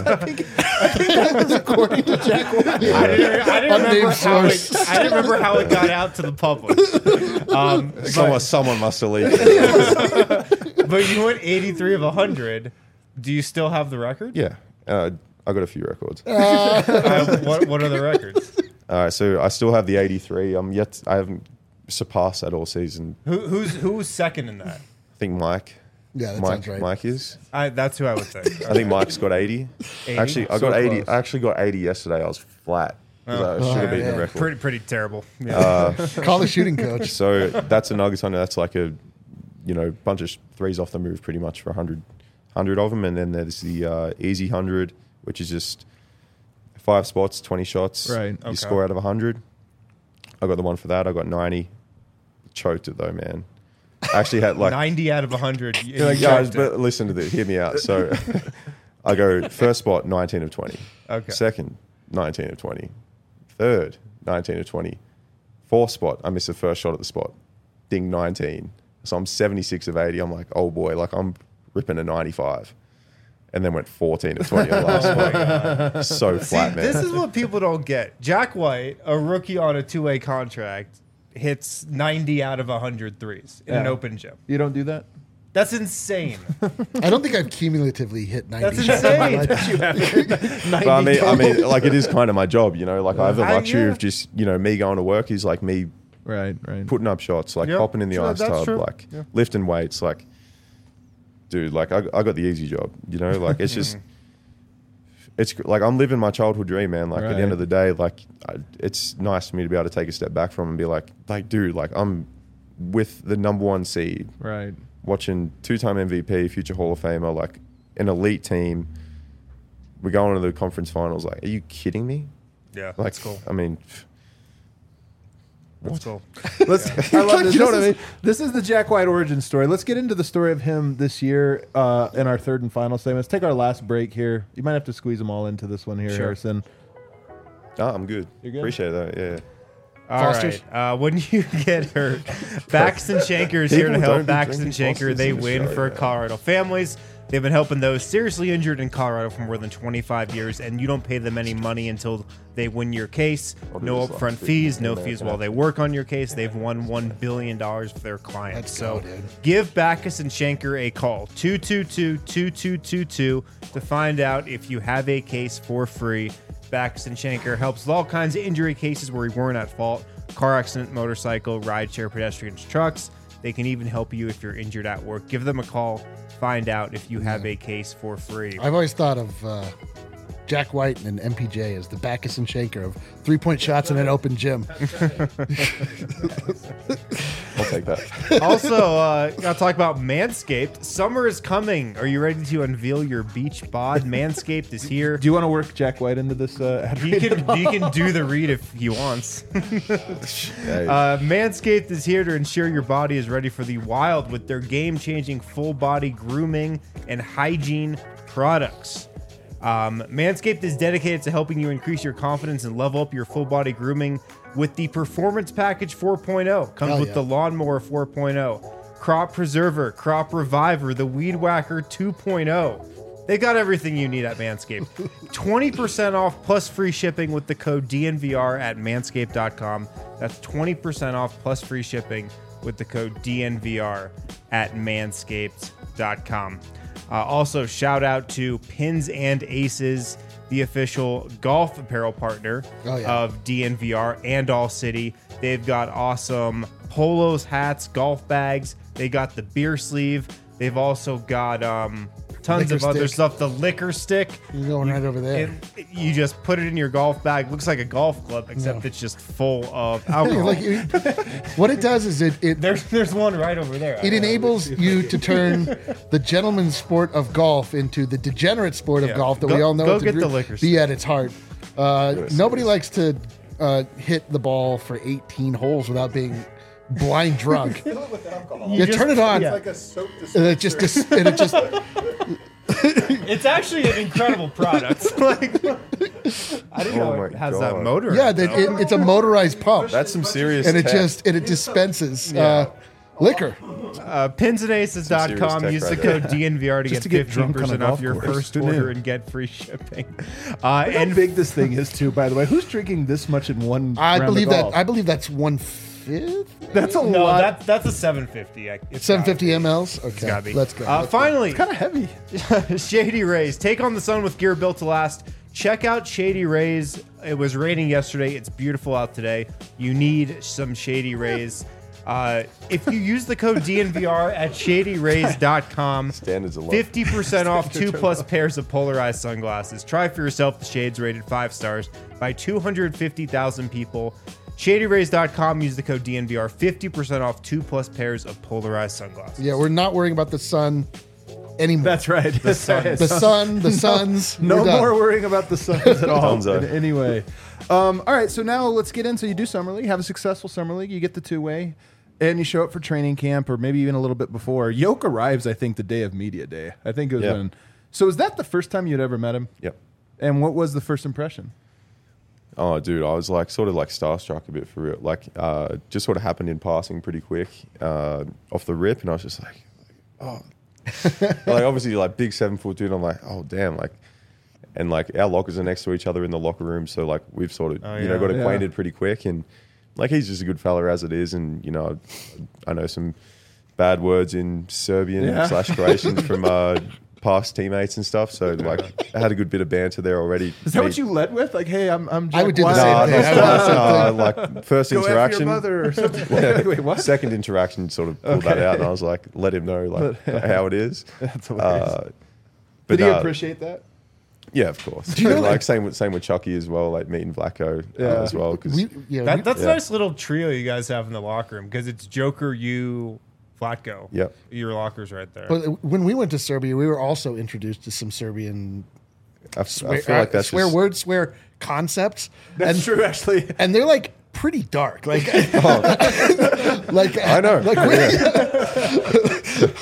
according to Jack White. I didn't, I didn't Unnamed remember how it, source. I didn't remember how it got out to the public. Um, someone someone must have leaked it. but you went eighty-three of one hundred. Do you still have the record? Yeah, uh, I got a few records. Uh, what, what are the records? All right, so I still have the eighty-three. I'm yet I haven't surpassed that all season. Who, who's who's second in that? I think Mike. Yeah, that Mike, sounds right. Mike is. I, that's who I would think. I think Mike's got eighty. eighty? Actually, I So got eighty. close. I actually got eighty yesterday. I was flat. 'Cause Oh. I should have Oh, beaten yeah. the record. Pretty pretty terrible. Yeah. Uh, Call the shooting coach. so that's a Nuggets hunter. That's like a, you know, bunch of threes off the move, pretty much for one hundred, one hundred of them. And then there's the uh, easy one hundred, which is just five spots, twenty shots. Right. You Okay. score out of one hundred. I got the one for that. I got ninety. Choked it though, man. I actually had like ninety out of one hundred. You, yeah, you guys, choked but it. listen to this. Hear me out. So I go first spot, nineteen of twenty. Okay. Second, nineteen of twenty. Third, nineteen of twenty. Fourth spot, I miss the first shot at the spot. Ding, nineteen. So I'm seventy-six of eighty. I'm like, oh boy, like I'm ripping a ninety-five. And then went fourteen of twenty on the last spot. So flat, See, man. this is what people don't get. Jack White, a rookie on a two-way contract, hits ninety out of one hundred threes in an Yeah. open gym. You don't do that? That's insane. I don't think I've cumulatively hit ninety. That's shots in my insane. life. But I mean, I mean, like it is kind of my job, you know. Like I have the I- luxury yeah. of just, you know, me going to work is like me Right, right. putting up shots, like Yep. hopping in the True, ice that's tub, true. like Yeah. lifting weights, like, dude, like I, I got the easy job, you know. Like it's just, it's like I'm living my childhood dream, man. Like at the Right. end of the day, like I, it's nice for me to be able to take a step back from and be like, like, dude, like I'm with the number one seed, Right. watching two-time M V P, future Hall of Famer, like an elite team. We're going to the conference finals. Like, are you kidding me? Yeah, Like, that's cool. I mean, That's cool. Let's. I love this. You know This what I is, mean? this is the Jack White origin story. Let's get into the story of him this year uh, in our third and final segment. Let's take our last break here. You might have to squeeze them all into this one here, Sure. Harrison. no, I'm good. You're good? Appreciate that. Yeah. All Foster's? right. Uh, when you get hurt, Baxton Shanker is here to People help. don't be Baxton drinking Shanker, Foster's they in win for Australia. Colorado families. They've been helping those seriously injured in Colorado for more than twenty-five years, and you don't pay them any money until they win your case. I'll do No this upfront last week. fees, no Yeah, fees man. while they work on your case. They've won one billion dollars for their clients. Let's so go, dude. give Backus and Shanker a call, two two two, two two two two, to find out if you have a case for free. Backus and Shanker helps with all kinds of injury cases where you weren't at fault. Car accident, motorcycle, rideshare, pedestrians, trucks. They can even help you if you're injured at work. Give them a call. Find out if you have a case for free. I've always thought of uh, Jack White and M P J as the Backus and Shanker of three-point shots in an open gym. I'll take that. Also, uh, gotta talk about Manscaped. Summer is coming. Are you ready to unveil your beach bod? Manscaped is here. Do you want to work Jack White into this? Uh, ad He read can, at all? he can do the read if he wants. Hey, Uh, Manscaped is here to ensure your body is ready for the wild with their game-changing full-body grooming and hygiene products. Um, Manscaped is dedicated to helping you increase your confidence and level up your full-body grooming with the Performance Package four point oh. Comes Hell with yeah. the Lawnmower four point oh, Crop Preserver, Crop Reviver, the Weed Whacker two point oh. They got everything you need at Manscaped. twenty percent off plus free shipping with the code D N V R at manscaped dot com. That's twenty percent off plus free shipping with the code D N V R at manscaped dot com. Uh, also, shout out to Pins and Aces, the official golf apparel partner Oh, yeah. of D N V R and All City. They've got awesome polos, hats, golf bags. They got the beer sleeve. They've also got um, tons Liquor of other stick. stuff. The liquor stick. You're going right over there. It- you just put it in your golf bag. Looks like a golf club, except No. it's just full of alcohol. Like, it- what it does is it it, there's there's one right over there. it enables you to turn the gentleman's sport of golf into the degenerate sport of Yeah. golf that Go- we all know go it to get be- the liquor be at its heart. Uh, nobody likes to uh, hit the ball for eighteen holes without being blind drunk. You, just- turn it on, yeah. Like a soap and it just dis- and it just It's actually an incredible product. Like, I didn't know Oh it my has that God. motor. in yeah, it, that though. it, it's a motorized pump, that's some serious. and it tech. just and it dispenses uh, liquor. Uh, pins and aces dot com. serious tech Use the right code there. D N V R to Just get to get fifteen drunk on a percent off golf your course. first Who order knew? and get free shipping. Uh, And how and big this thing is too, by the way. Who's drinking this much in one? I round of believe that golf? I believe that's one fifth, That's a no, lot. that, that's a seven fifty. I- it's seven gotta fifty be. mLs. Okay, Gotta be. let's go. Uh, Let's go. finally, kind of heavy. Shady Rays. Take on the sun with gear built to last. Check out Shady Rays. It was raining yesterday. It's beautiful out today. You need some Shady Rays. Uh, if you use the code D N V R at shady rays dot com, Standards are low. fifty percent off two plus pairs of polarized sunglasses. Try for yourself. The shades rated five stars by two hundred fifty thousand people. shady rays dot com. Use the code D N V R. fifty percent off two plus pairs of polarized sunglasses. Yeah, we're not worrying about the sun anymore. That's right. The sun. the sun, the suns. No we're done. more worrying about the Suns at all. Dunzo. in any way. Um, all right, so now let's get into you do summer league, have a successful summer league, you get the two way, and you show up for training camp, or maybe even a little bit before. Yoke arrives, I think, the day of media day. I think it was Yeah. when So is that the first time you'd ever met him? Yep. And what was the first impression? Oh, dude, I was like sort of like starstruck a bit for real. Like, uh, just sort of happened in passing pretty quick uh, off the rip, and I was just like, oh, like obviously like big seven foot dude. I'm like, oh damn, like, and like our lockers are next to each other in the locker room, so like we've sort of Oh, you know yeah. got acquainted Yeah. pretty quick, and like he's just a good fella as it is, and you know, I know some bad words in Serbian Yeah. slash Croatian from uh, past teammates and stuff. So like I had a good bit of banter there already. Is that Me- what you led with? Like, hey, I'm I'm. I Jack would do the White. same No, thing. no, I would no, no, like first Go F your interaction. mother or something. Wait, what? Second interaction sort of pulled that Okay. out, and I was like, let him know like how it is. That's hilarious. Uh, but Did he no, appreciate that? yeah, of course. you know And, that- like same with same with Chucky as well, like meeting Vlaco Yeah. uh, as well. Because We, yeah, That, we- that's Yeah. a nice little trio you guys have in the locker room because it's Joker, you, Flatko. Yep. Your locker's right there. but when we went to Serbia, we were also introduced to some Serbian I, f- I swear, feel like uh, that's swear just, words, swear concepts. That's and, true, actually. And they're like pretty dark. Like, like I know. Like, Yeah.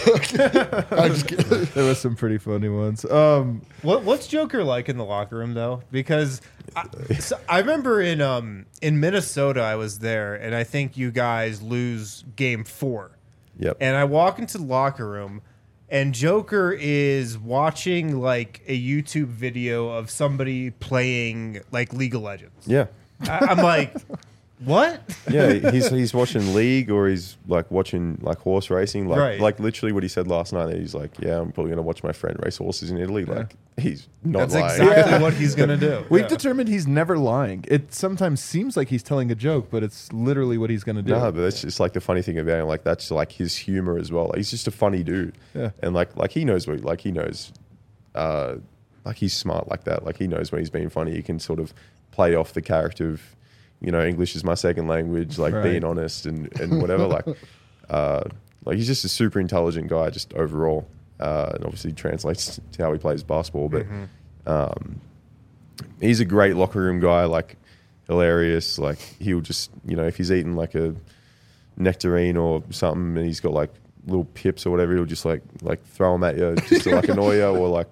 I'm just kidding. There was some pretty funny ones. Um, What what's Joker like in the locker room though? Because I, so I remember in um in Minnesota I was there and I think you guys lose game four. Yep. And I walk into the locker room and Joker is watching like a YouTube video of somebody playing like League of Legends. yeah. I, I'm like, what? Yeah, he's he's watching League or he's like watching like horse racing, like Right. like literally what he said last night. He's like, yeah, I'm probably gonna watch my friend race horses in Italy. Like he's not That's lying. exactly Yeah. what he's gonna do. we've Yeah. determined he's never lying. It sometimes seems like he's telling a joke, but it's literally what he's going to do. No, but that's just like the funny thing about him. Like that's like his humor as well. Like, he's just a funny dude. Yeah. And like like he knows what like he knows, uh, like he's smart like that. Like he knows when he's being funny. He can sort of play off the character of, you know, English is my second language. Like Right. being honest and and whatever. like, uh, like he's just a super intelligent guy. Just overall, uh, and obviously translates to how he plays basketball. But um, he's a great locker room guy. Like hilarious. Like he'll just you know if he's eating like a nectarine or something and he's got like little pips or whatever, he'll just like like throw them at you just to like annoy you or like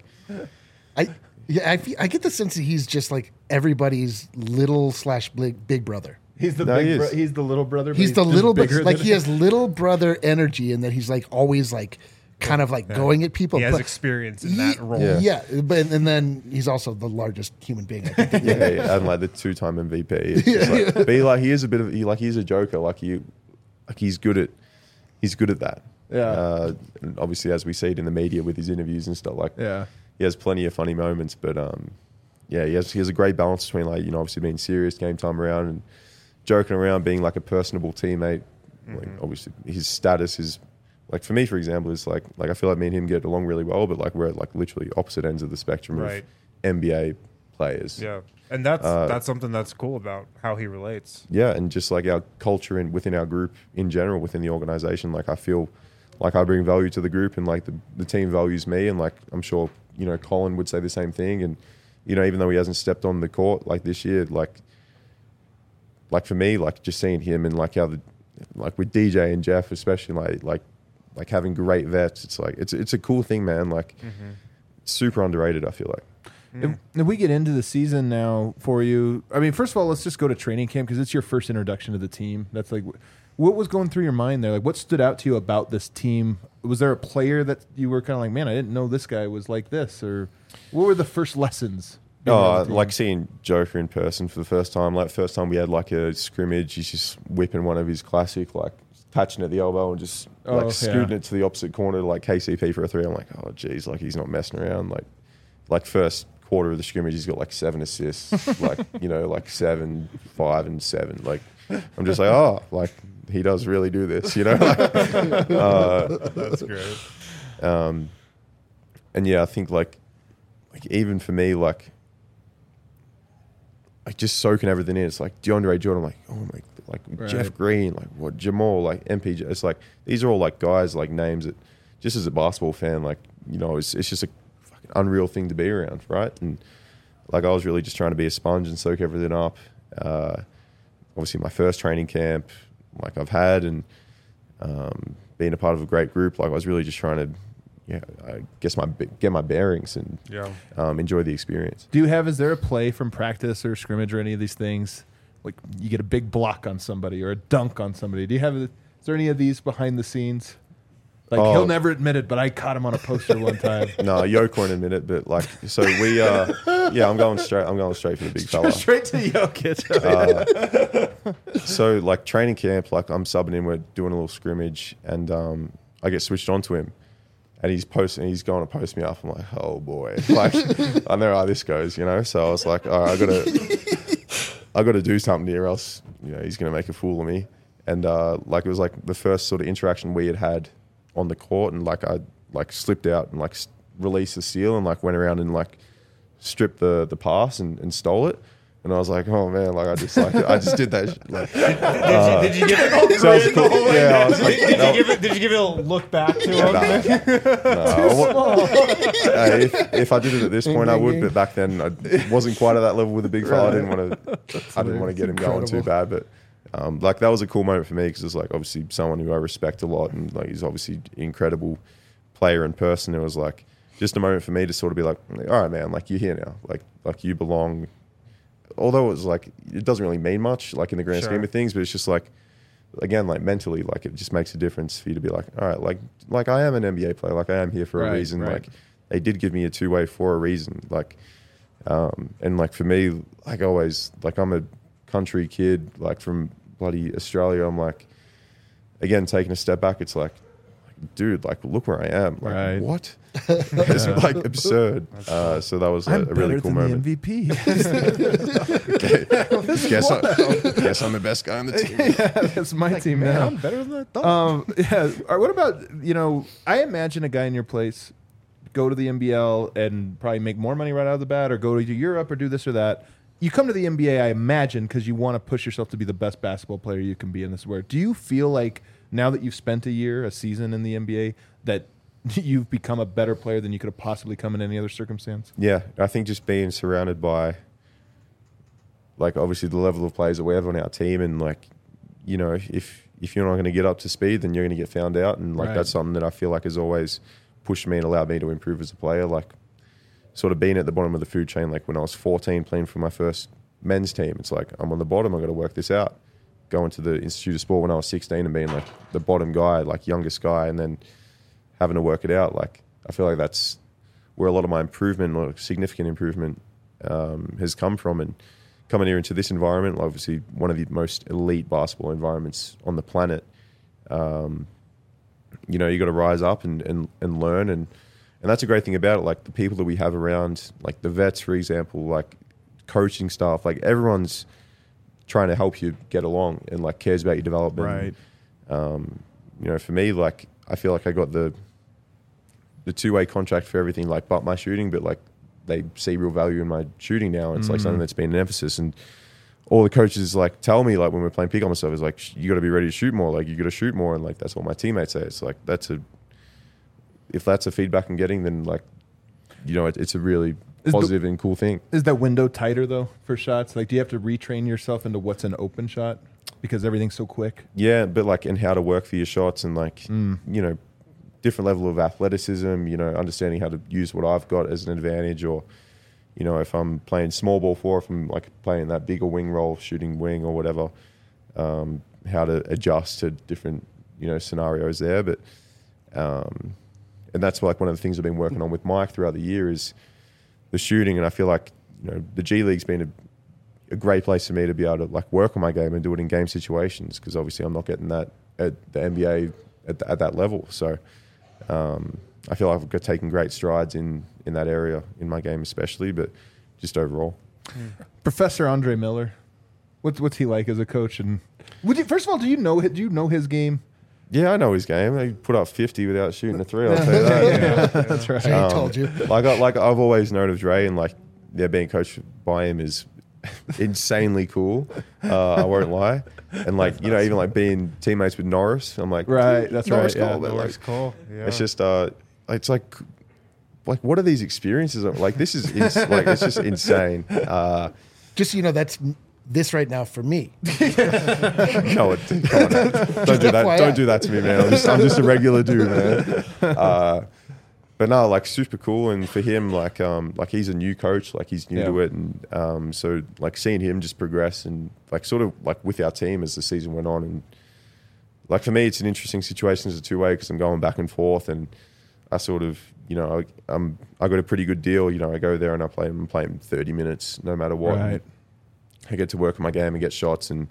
I yeah, I, feel, I get the sense that he's just like everybody's little slash big, big brother. He's the No, big he bro- is. he's the little brother. but He's the just little bit bigger like than he has little brother energy, and that he's like always like kind of like going at people. He has but- experience in Ye- that role. Yeah. Yeah, but and then he's also the largest human being. I think. yeah, yeah, and like the two-time M V P. It's just like, but he, like he is a bit of he like he's a joker. Like you, like he's good at he's good at that. Yeah. Uh, and obviously, as we see it in the media with his interviews and stuff, like Yeah. he has plenty of funny moments. But um, yeah, he has he has a great balance between like you know obviously being serious game time around and joking around, being like a personable teammate. Like obviously his status is like for me, for example, is like like I feel like me and him get along really well, but like we're at like literally opposite ends of the spectrum Right. of N B A players. Yeah. And that's Uh, that's something that's cool about how he relates. Yeah, and just like our culture and within our group in general, within the organization, like I feel like I bring value to the group and like the, the team values me, and like I'm sure you know Colin would say the same thing, and you know even though he hasn't stepped on the court like this year, like like for me, like just seeing him and like how the like with D J and Jeff especially like like like having great vets, it's like it's it's a cool thing, man. Like super underrated, I feel like. If, if we get into the season now for you, I mean, first of all, let's just go to training camp because it's your first introduction to the team. That's like, what was going through your mind there? Like, what stood out to you about this team? Was there a player that you were kind of like, man, I didn't know this guy was like this? Or what were the first lessons? being on Oh, the team? like seeing Joker in person for the first time. Like first time we had like a scrimmage, he's just whipping one of his classic, like catching at the elbow and just Oh, like yeah. scooting it to the opposite corner to like K C P for a three. I'm like, oh geez, like he's not messing around. Like, like first quarter of the scrimmage, he's got like seven assists, like you know, like seven, five, and seven. Like I'm just like, oh, like he does really do this, you know. Like, uh, That's great. um, and yeah, I think like, like even for me, like, like just soaking everything in. It's like DeAndre Jordan, like oh my, like Right. Jeff Green, like what Jamal, like M P J. It's like these are all like guys, like names that, just as a basketball fan, like you know, it's it's just a fucking unreal thing to be around, right? And like I was really just trying to be a sponge and soak everything up. Uh, obviously, my first training camp, like I've had, and um, being a part of a great group, like I was really just trying to yeah, I guess my get my bearings and Yeah. um, enjoy the experience. Do you have, is there a play from practice or scrimmage or any of these things? Like you get a big block on somebody or a dunk on somebody. Do you have, is there any of these behind the scenes? Like Oh. he'll never admit it, but I caught him on a poster one time. No, Yoke won't admit it, but like, so we, uh, yeah, I'm going straight. I'm going straight for the big fella. Straight to Jokic. Uh, so like training camp, like I'm subbing in, we're doing a little scrimmage, and um, I get switched on to him, and he's posting, he's going to post me up. I'm like, oh boy, like I know how this goes, you know. So I was like, all right, I gotta, I gotta do something here, else you know he's gonna make a fool of me. And uh, like it was like the first sort of interaction we had had on the court, and like I like slipped out and like s- released the steal and like went around and like stripped the the pass and, and stole it. And I was like, oh man, like I just like I just did that. Sh- like, uh, Did you, did you give it? so I was cool. Yeah, I was like, Did, did no, you give it? Did you give it a look back to him? nah, nah, I wa- Hey, if, if I did it at this point, I would. But back then, I wasn't quite at that level with the big fella. I didn't want to. I didn't want to get him going too bad. But um, like that was a cool moment for me because it's like obviously someone who I respect a lot, and like he's obviously an incredible player in person. It was like just a moment for me to sort of be like, all right, man, like you're here now, like like you belong. Although it was like it doesn't really mean much, like in the grand Sure. scheme of things, but it's just like again, like mentally, like it just makes a difference for you to be like, all right, like like I am an N B A player, like I am here for Right, a reason. right. Like they did give me a two way for a reason. Like um, and like for me, like always, like I'm a country kid, like from bloody Australia. I'm like, again, taking a step back, it's like, dude, like look where I am. Like, Right. what? It's like absurd. Uh, so that was a, I'm a really better cool than moment. the M V P. guess, I, guess I'm the best guy on the team. Yeah, that's my team Man, now. I'm better than I thought. Um, yeah. All right, what about, you know, I imagine a guy in your place go to the N B L and probably make more money right out of the bat, or go to Europe or do this or that. You come to the N B A, I imagine, because you want to push yourself to be the best basketball player you can be in this world. Do you feel like now that you've spent a year, a season in the N B A, that you've become a better player than you could have possibly come in any other circumstance? Yeah, I think just being surrounded by, like, obviously the level of players that we have on our team, and like, you know, if if you're not going to get up to speed, then you're going to get found out, and like Right. that's something that I feel like has always pushed me and allowed me to improve as a player. Like, sort of being at the bottom of the food chain, like when I was fourteen playing for my first men's team, it's like I'm on the bottom. I got to work this out. Going to the Institute of Sport when I was sixteen and being like the bottom guy, like youngest guy, and then having to work it out. Like I feel like that's where a lot of my improvement, or significant improvement, um, has come from. And coming here into this environment, obviously one of the most elite basketball environments on the planet, um, you know, you got to rise up and, and, and learn. And, and that's a great thing about it. Like the people that we have around, like the vets, for example, like coaching staff, like everyone's trying to help you get along and like cares about your development. Right. Um, you know, for me, like I feel like I got the the two way contract for everything, like but my shooting, but like they see real value in my shooting now. It's like Mhm. something that's been an emphasis, and all the coaches like tell me, like when we're playing pick on myself, is like you got to be ready to shoot more. Like you got to shoot more, and like that's what my teammates say. It's like that's a if that's a feedback I'm getting, then like you know it, it's a really Is the- positive and cool thing. Is that window tighter, though, for shots? Like, do you have to retrain yourself into what's an open shot because everything's so quick? Yeah, but like and how to work for your shots and like Mm. you know different level of athleticism. You know, understanding how to use what I've got as an advantage, or you know if I'm playing small ball four, if I'm like playing that bigger wing role, shooting wing or whatever, um, how to adjust to different you know scenarios there. But um, and that's like one of the things I've been working on with Mike throughout the year is the shooting, and I feel like you know the G League's been a, a great place for me to be able to like work on my game and do it in game situations, because obviously I'm not getting that at the N B A at, at that level. So um, I feel like I've got taken great strides in in that area in my game, especially, but just overall. Professor Andre Miller, what's what's he like as a coach? And would you, first of all, do you know do you know his game? Yeah, I know his game. He put up fifty without shooting a three. I'll tell you that. That's right. I Um, told you. Like I, like I've always known of Dre, and like yeah, being coached by him is insanely cool. Uh, I won't lie. And like you know, even like being teammates with Norris, I'm like Right, "Dude, that's Norris right, yeah, Cole," but, Norris like, Cole. Yeah. it's just uh, it's like like what are these experiences? Like this is ins- like it's just insane. Uh, Just so you know, that's m- this right now for me. no, it, come on, now. don't do that. F Y I. Don't do that to me, man. I'm just, I'm just a regular dude, man. Uh, but no, like super cool. And for him, like um, like he's a new coach, like he's new Yeah. to it, and um, so like seeing him just progress and like sort of like with our team as the season went on, and like for me, it's an interesting situation as a two way because I'm going back and forth, and I sort of you know I, I'm I got a pretty good deal. You know, I go there and I play I'm playing thirty minutes no matter what. Right. I get to work on my game and get shots and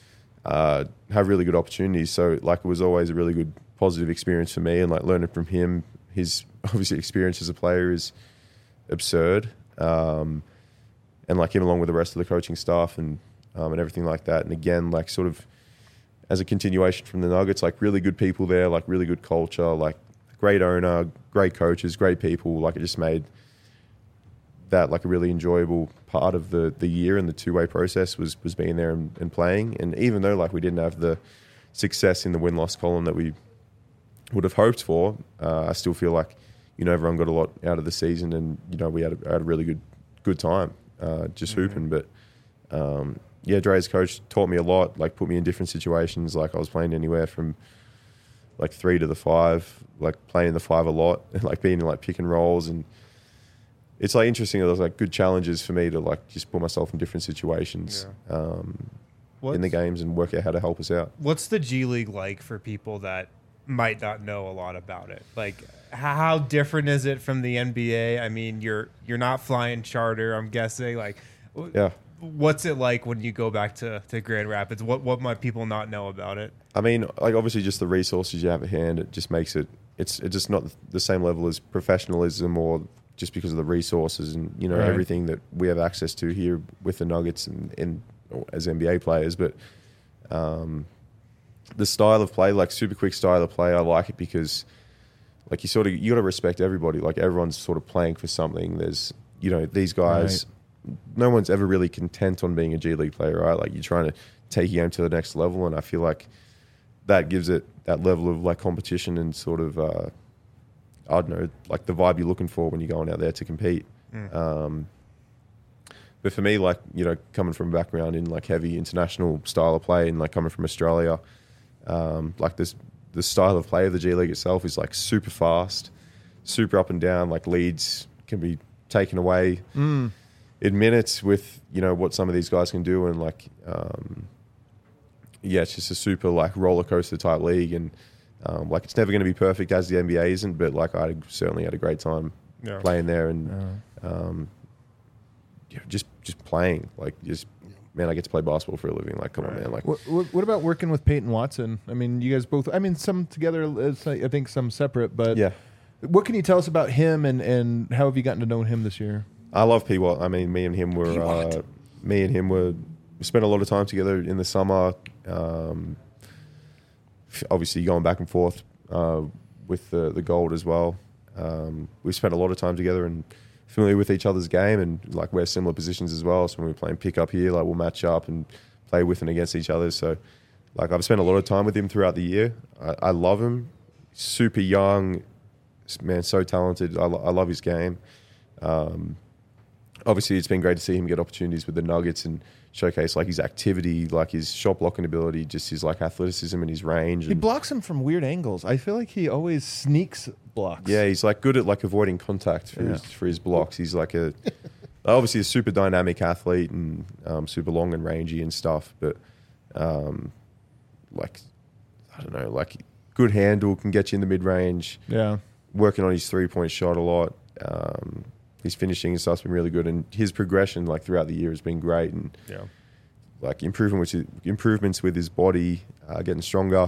uh, have really good opportunities. So like it was always a really good positive experience for me, and like learning from him. His obviously experience as a player is absurd, um, and like him along with the rest of the coaching staff and um, and everything like that. And again, like sort of as a continuation from the Nuggets, like really good people there, like really good culture, like great owner, great coaches, great people. Like it just made that like a really enjoyable part of the the year and the two way process was was being there and, and playing. And even though like we didn't have the success in the win loss column that we would have hoped for, uh, I still feel like, you know, everyone got a lot out of the season, and you know we had a, had a really good good time uh, just Mm-hmm. hooping. But um, yeah, Dre's coach taught me a lot. Like put me in different situations. Like I was playing anywhere from like three to the five, like playing the five a lot, and like being in like pick and rolls. And it's like interesting. There's like good challenges for me to like just put myself in different situations um, in the games and work out how to help us out. What's the G League like for people that might not know a lot about it? Like, how different is it from the N B A? I mean, you're you're not flying charter, I'm guessing. Like, w- Yeah. what's it like when you go back to, to Grand Rapids? What what might people not know about it? I mean, like obviously, just the resources you have at hand, it just makes it. It's it's just not the same level as professionalism, or just because of the resources and you know Right. everything that we have access to here with the Nuggets and, and as N B A players. But um, the style of play, like super quick style of play, I like it because like you sort of you got to respect everybody. Like everyone's sort of playing for something. There's you know these guys. No one's ever really content on being a G League player, right? Like you're trying to take your game to the next level, and I feel like that gives it that level of like competition and sort of uh, I don't know, like the vibe you're looking for when you're going out there to compete. Mm. Um, but for me, like you know, coming from a background in like heavy international style of play and like coming from Australia, um, like this the style of play of the G League itself is like super fast, super up and down. Like leads can be taken away. Mm. in minutes with you know what some of these guys can do, and like um, yeah, it's just a super like roller coaster type league, and um, like it's never going to be perfect as the N B A isn't, but like I certainly had a great time Yeah. playing there, and um, yeah, just just playing like just man, I get to play basketball for a living. Like come on, man, like What, what, what about working with Peyton Watson? I mean, you guys both. I mean, some together. uh, I think some separate. But yeah. what can you tell us about him, and, and how have you gotten to know him this year? I love P Watt. I mean, me and him were P-Watt. uh, me and him were we spent a lot of time together in the summer. Um, f- obviously, going back and forth uh, with the the gold as well. Um, we spent a lot of time together and familiar with each other's game, and like we're similar positions as well. So when we're playing pickup here, like we'll match up and play with and against each other. So like I've spent a lot of time with him throughout the year. I, I love him. Super young, man, so talented. I, lo- I love his game. Um, obviously, it's been great to see him get opportunities with the Nuggets and showcase like his activity, like his shot blocking ability, just his like athleticism and his range. He And, blocks him from weird angles. I feel like he always sneaks blocks. yeah, he's like good at like avoiding contact for Yeah. his for his blocks. He's like a obviously a super dynamic athlete and um, super long and rangy and stuff, but um, like I don't know, like good handle, can get you in the mid range. yeah. Working on his three point shot a lot. Um, his finishing and stuff's been really good, and his progression like throughout the year has been great, and Yeah. like improvement with his, improvements with his body, uh, getting stronger.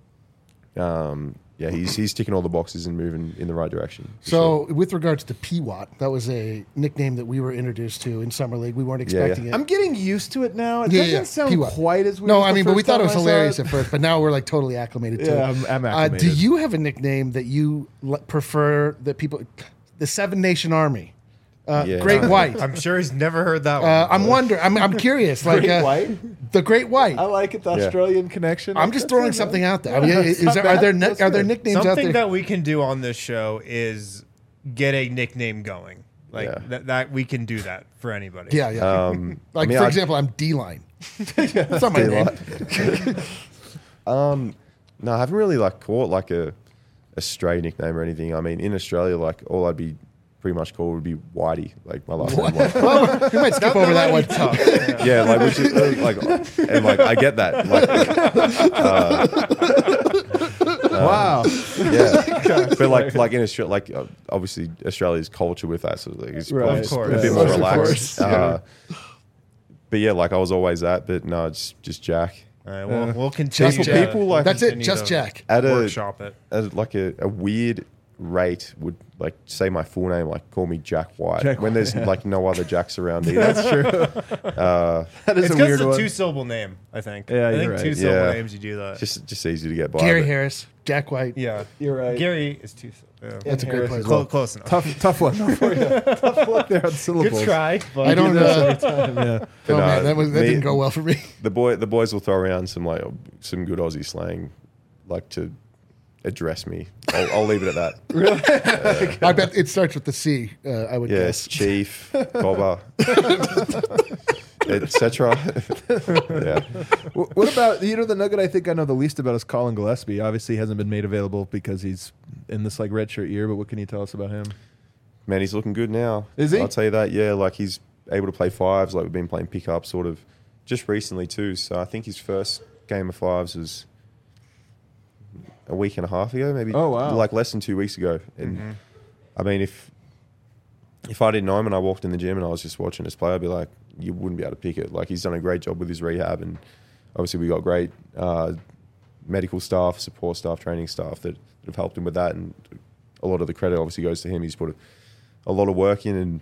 Um, yeah, he's he's ticking all the boxes and moving in the right direction. for So, sure. with regards to P-Watt, that was a nickname that we were introduced to in Summer League. We weren't Yeah, yeah. expecting it. I'm getting used to it now. It Yeah, doesn't yeah. sound P-Watt. quite as weird. no, as I the mean, but we first thought it time was I saw hilarious it. at first, but now we're like totally acclimated to Yeah, it. I'm, I'm Uh, acclimated. do you have a nickname that you l- prefer that people, the Seven Nation Army, uh, Yeah. Great White? I'm sure he's never heard that one. Uh, I'm wondering. I'm, I'm curious. Like Great uh, White? the Great White. I like it. The Yeah. Australian connection. I'm just That's throwing not something bad. out there. I mean, Yeah, is it's not there, are bad. there ne- That's are there good. nicknames out Something there? that we can do on this show is get a nickname going. Like Yeah. that, that we can do that for anybody. yeah, yeah. Um, I like mean, for I- example, I'm D-line. That's not my name. um, no, I haven't really like caught like a, a stray nickname or anything. I mean, in Australia, like all I'd be pretty much called would be Whitey, like my last name. Like, Well, we might skip over that one. Tough. Yeah. yeah, like which is uh, like, and like I get that. Like, uh, Wow. yeah, but like like in Australia, like uh, obviously Australia's culture with that, so like it's Right. probably Of just course. a bit Yeah. more Of relaxed. course. Uh, but yeah, like I was always that, but no, it's just Jack. All right, we'll, Yeah. we'll continue. People- to- people like- That's it, continue just to Jack. At a, Workshop it. at like a, a weird rate would like say my full name, like call me Jack White, Jack when there's White, yeah. like no other Jacks around either. That's true. Uh, That is It's a because weird it's a one. two syllable name, I think. Yeah, I you're think right. two syllable Yeah. names you do that. just just easy to get by. Gary but- Harris, Jack White. yeah. You're right. Gary is two syllables. Yeah. That's a great Harris place. as Clo- well. close enough. Tough, tough one though for you. Tough luck there on syllables. Good try. But I don't Do this uh, every time, yeah. But Oh no, man, that was that me- didn't go well for me. The boy, the boys will throw around some like some good Aussie slang, like to address me. I'll, I'll leave it at that. I bet it starts with the C. Uh, I would Yes, guess. chief, cobber, et cetera. Yeah, Wh- What about, you know, the nugget I think I know the least about is Colin Gillespie. Obviously, he hasn't been made available because he's in this like redshirt year. But what can you tell us about him? man, he's looking good now. Is he? I'll tell you that. Yeah, like he's able to play fives. Like we've been playing pickup sort of just recently too. So I think his first game of fives was a week and a half ago, maybe. Oh, wow. Like less than two weeks ago. And I mean, if if I didn't know him and I walked in the gym and I was just watching us play, I'd be like, you wouldn't be able to pick it. Like he's done a great job with his rehab, and obviously we got great uh, medical staff, support staff, training staff that, that have helped him with that. And a lot of the credit obviously goes to him. He's put a, a lot of work in, and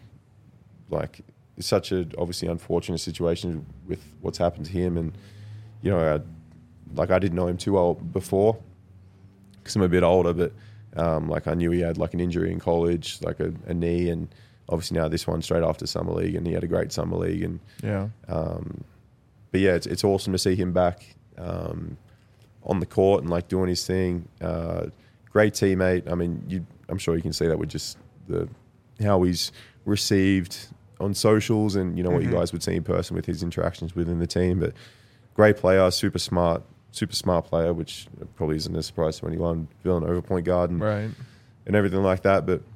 like it's such a obviously unfortunate situation with what's happened to him. And you know, I, like I didn't know him too well before because I'm a bit older, but um, like I knew he had like an injury in college, like a, a knee, and obviously now this one straight after summer league, and he had a great summer league. And Yeah. um, but yeah, it's it's awesome to see him back um, on the court and like doing his thing. Uh, great teammate. I mean, you, I'm sure you can see that with just the how he's received on socials, and you know what you guys would see in person with his interactions within the team. But great player, super smart, super smart player, which probably isn't a surprise to anyone. Villanova point guard and, Right. and everything like that. But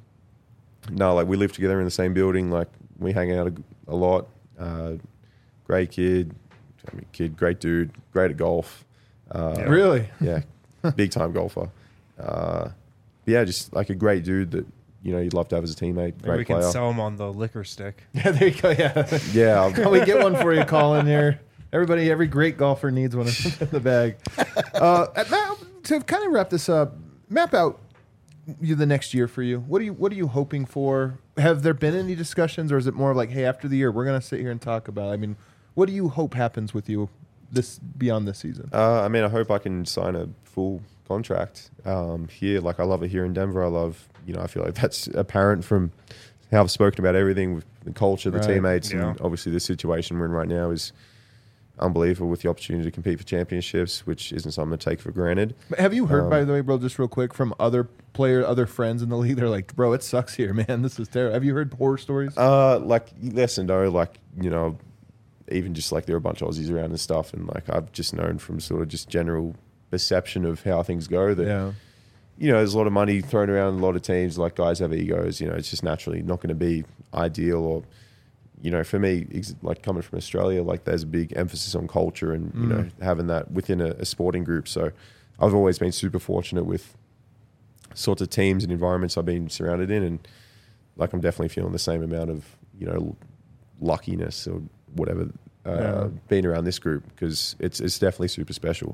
no, like we live together in the same building. Like we hang out a, a lot. Uh, great kid, I mean, kid, great dude, great at golf. Uh, Yeah. Really? yeah, big time golfer. Uh, but yeah, just like a great dude that you know you'd love to have as a teammate. Maybe Great we can player. sell him on the liquor stick. Yeah, there you go. Yeah. Yeah, I'll- Can we get one for you, Colin? Here, everybody, every great golfer needs one in the bag. Uh, now, to kind of wrap this up, map out you the next year for you. What are you What are you hoping for? Have there been any discussions, or is it more of like, hey, after the year, we're gonna sit here and talk about? I mean, what do you hope happens with you this beyond this season? Uh, I mean, I hope I can sign a full contract um, here. Like, I love it here in Denver. I love, you know, I feel like that's apparent from how I've spoken about everything with the culture, the Right. teammates, Yeah. and obviously the situation we're in right now is unbelievable with the opportunity to compete for championships, which isn't something to take for granted. But have you heard, Um, by the way, bro, just real quick, from other player, other friends in the league? They're like, bro, it sucks here, man. This is terrible. Have you heard horror stories? Uh, like yes and no. Like you know, even just like there are a bunch of Aussies around and stuff, and like I've just known from sort of just general perception of how things go that Yeah. you know there's a lot of money thrown around, a lot of teams. Like guys have egos. You know, it's just naturally not going to be ideal. Or you know, for me, ex- like coming from Australia, like there's a big emphasis on culture and you know having that within a, a sporting group. So I've always been super fortunate with sorts of teams and environments I've been surrounded in, and like I'm definitely feeling the same amount of you know luckiness or whatever uh, Yeah. being around this group, because it's it's definitely super special.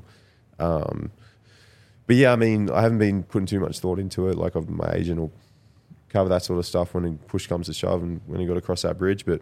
Um, but yeah, I mean, I haven't been putting too much thought into it. Like I've, my agent will cover that sort of stuff when push comes to shove and when you got to cross that bridge. But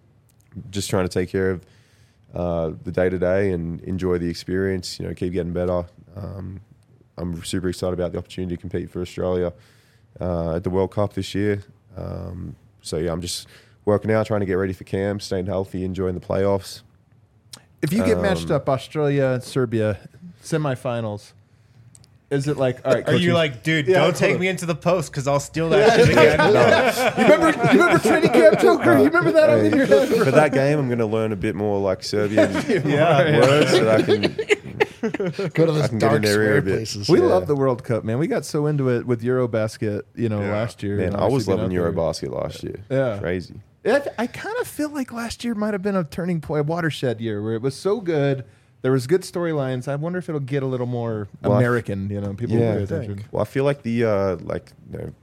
just trying to take care of uh, the day to day and enjoy the experience. You know, keep getting better. Um, I'm super excited about the opportunity to compete for Australia uh, at the World Cup this year. Um, so yeah, I'm just working out, trying to get ready for camp, staying healthy, enjoying the playoffs. If you get matched Um, up, Australia and Serbia, semifinals, Is it like, all right, Are coach, you like, dude, Yeah, don't hold take on. me into the post because I'll steal that shit again. you remember, you remember training camp Joker? You remember that Hey, in your head? for that game, I'm going to learn a bit more like Serbian Yeah. words so that I can. Go to those I can get in dark their ear square a bit. places. We Yeah. love the World Cup, man. We got so into it with Eurobasket, you know, Yeah. last year. Man, and I was obviously loving been out there. Eurobasket last year. Yeah. Crazy. I, I kind of feel like last year might have been a turning point, a watershed year where it was so good. There was good storylines. I wonder if it'll get a little more Well, I f- American. You know, people Yeah. will pay attention. Well, I feel like the uh, like you know,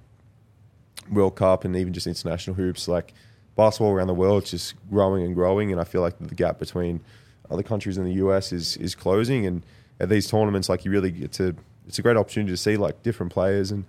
World Cup and even just international hoops, like basketball around the world, is just growing and growing. And I feel like the gap between other countries in the U S is is closing. And at these tournaments, like you really get to, it's a great opportunity to see like different players and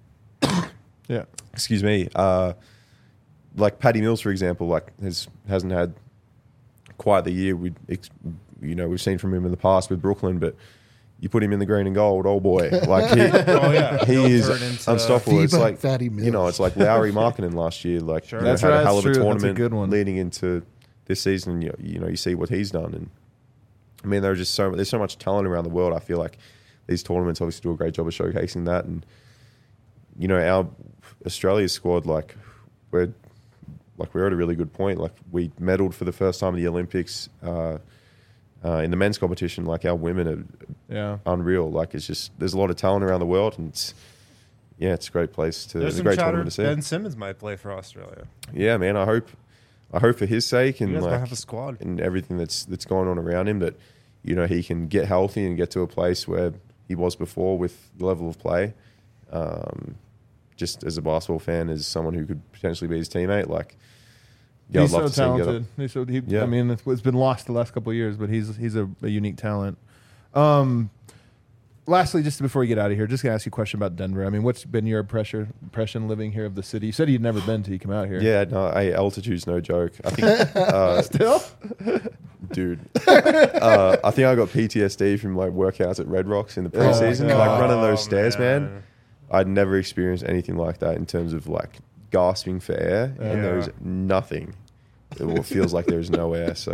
Yeah, excuse me, uh, like Paddy Mills, for example, like has hasn't had quite the year we you know we've seen from him in the past with Brooklyn, but you put him in the green and gold, oh boy, like he, Oh, yeah. he He'll is turn into- unstoppable. It's FIBA like Fatty you know, Mills. it's like Lowry Markkinen last year, like Sure. you know, That's had right, a hell of that's a true. That's a tournament good one. leading into this season. You, you know, you see what he's done, and I mean, there's just so there's so much talent around the world. I feel like these tournaments obviously do a great job of showcasing that, and you know, our Australia squad, like we're like we're at a really good point. Like we medaled for the first time at the Olympics uh, uh, in the men's competition. Like our women are yeah. unreal. Like it's just there's a lot of talent around the world, and it's yeah, it's a great place to. There's It's a some great chatter. tournament to see. Ben Simmons might play for Australia. Yeah, man. I hope, I hope for his sake You and guys might like have a squad. and everything that's that's going on around him, that you know he can get healthy and get to a place where he was before with the level of play. Um, just as a basketball fan, as someone who could potentially be his teammate, like yeah, he's I'd love so to see him get talented. up. He's so, he, Yeah. I mean, it's, it's been lost the last couple of years, but he's he's a, a unique talent. Um, lastly, just before we get out of here, just gonna ask you a question about Denver. I mean, what's been your impression impression living here of the city? You said you'd never been till you come out here. Yeah, no, hey, altitude's no joke. I think, uh, Still? dude, uh, I think I got P T S D from like workouts at Red Rocks in the preseason, God. like running those Oh, stairs, man. man. I'd never experienced anything like that in terms of like gasping for air, and Yeah. there's nothing. It feels like there's no air, so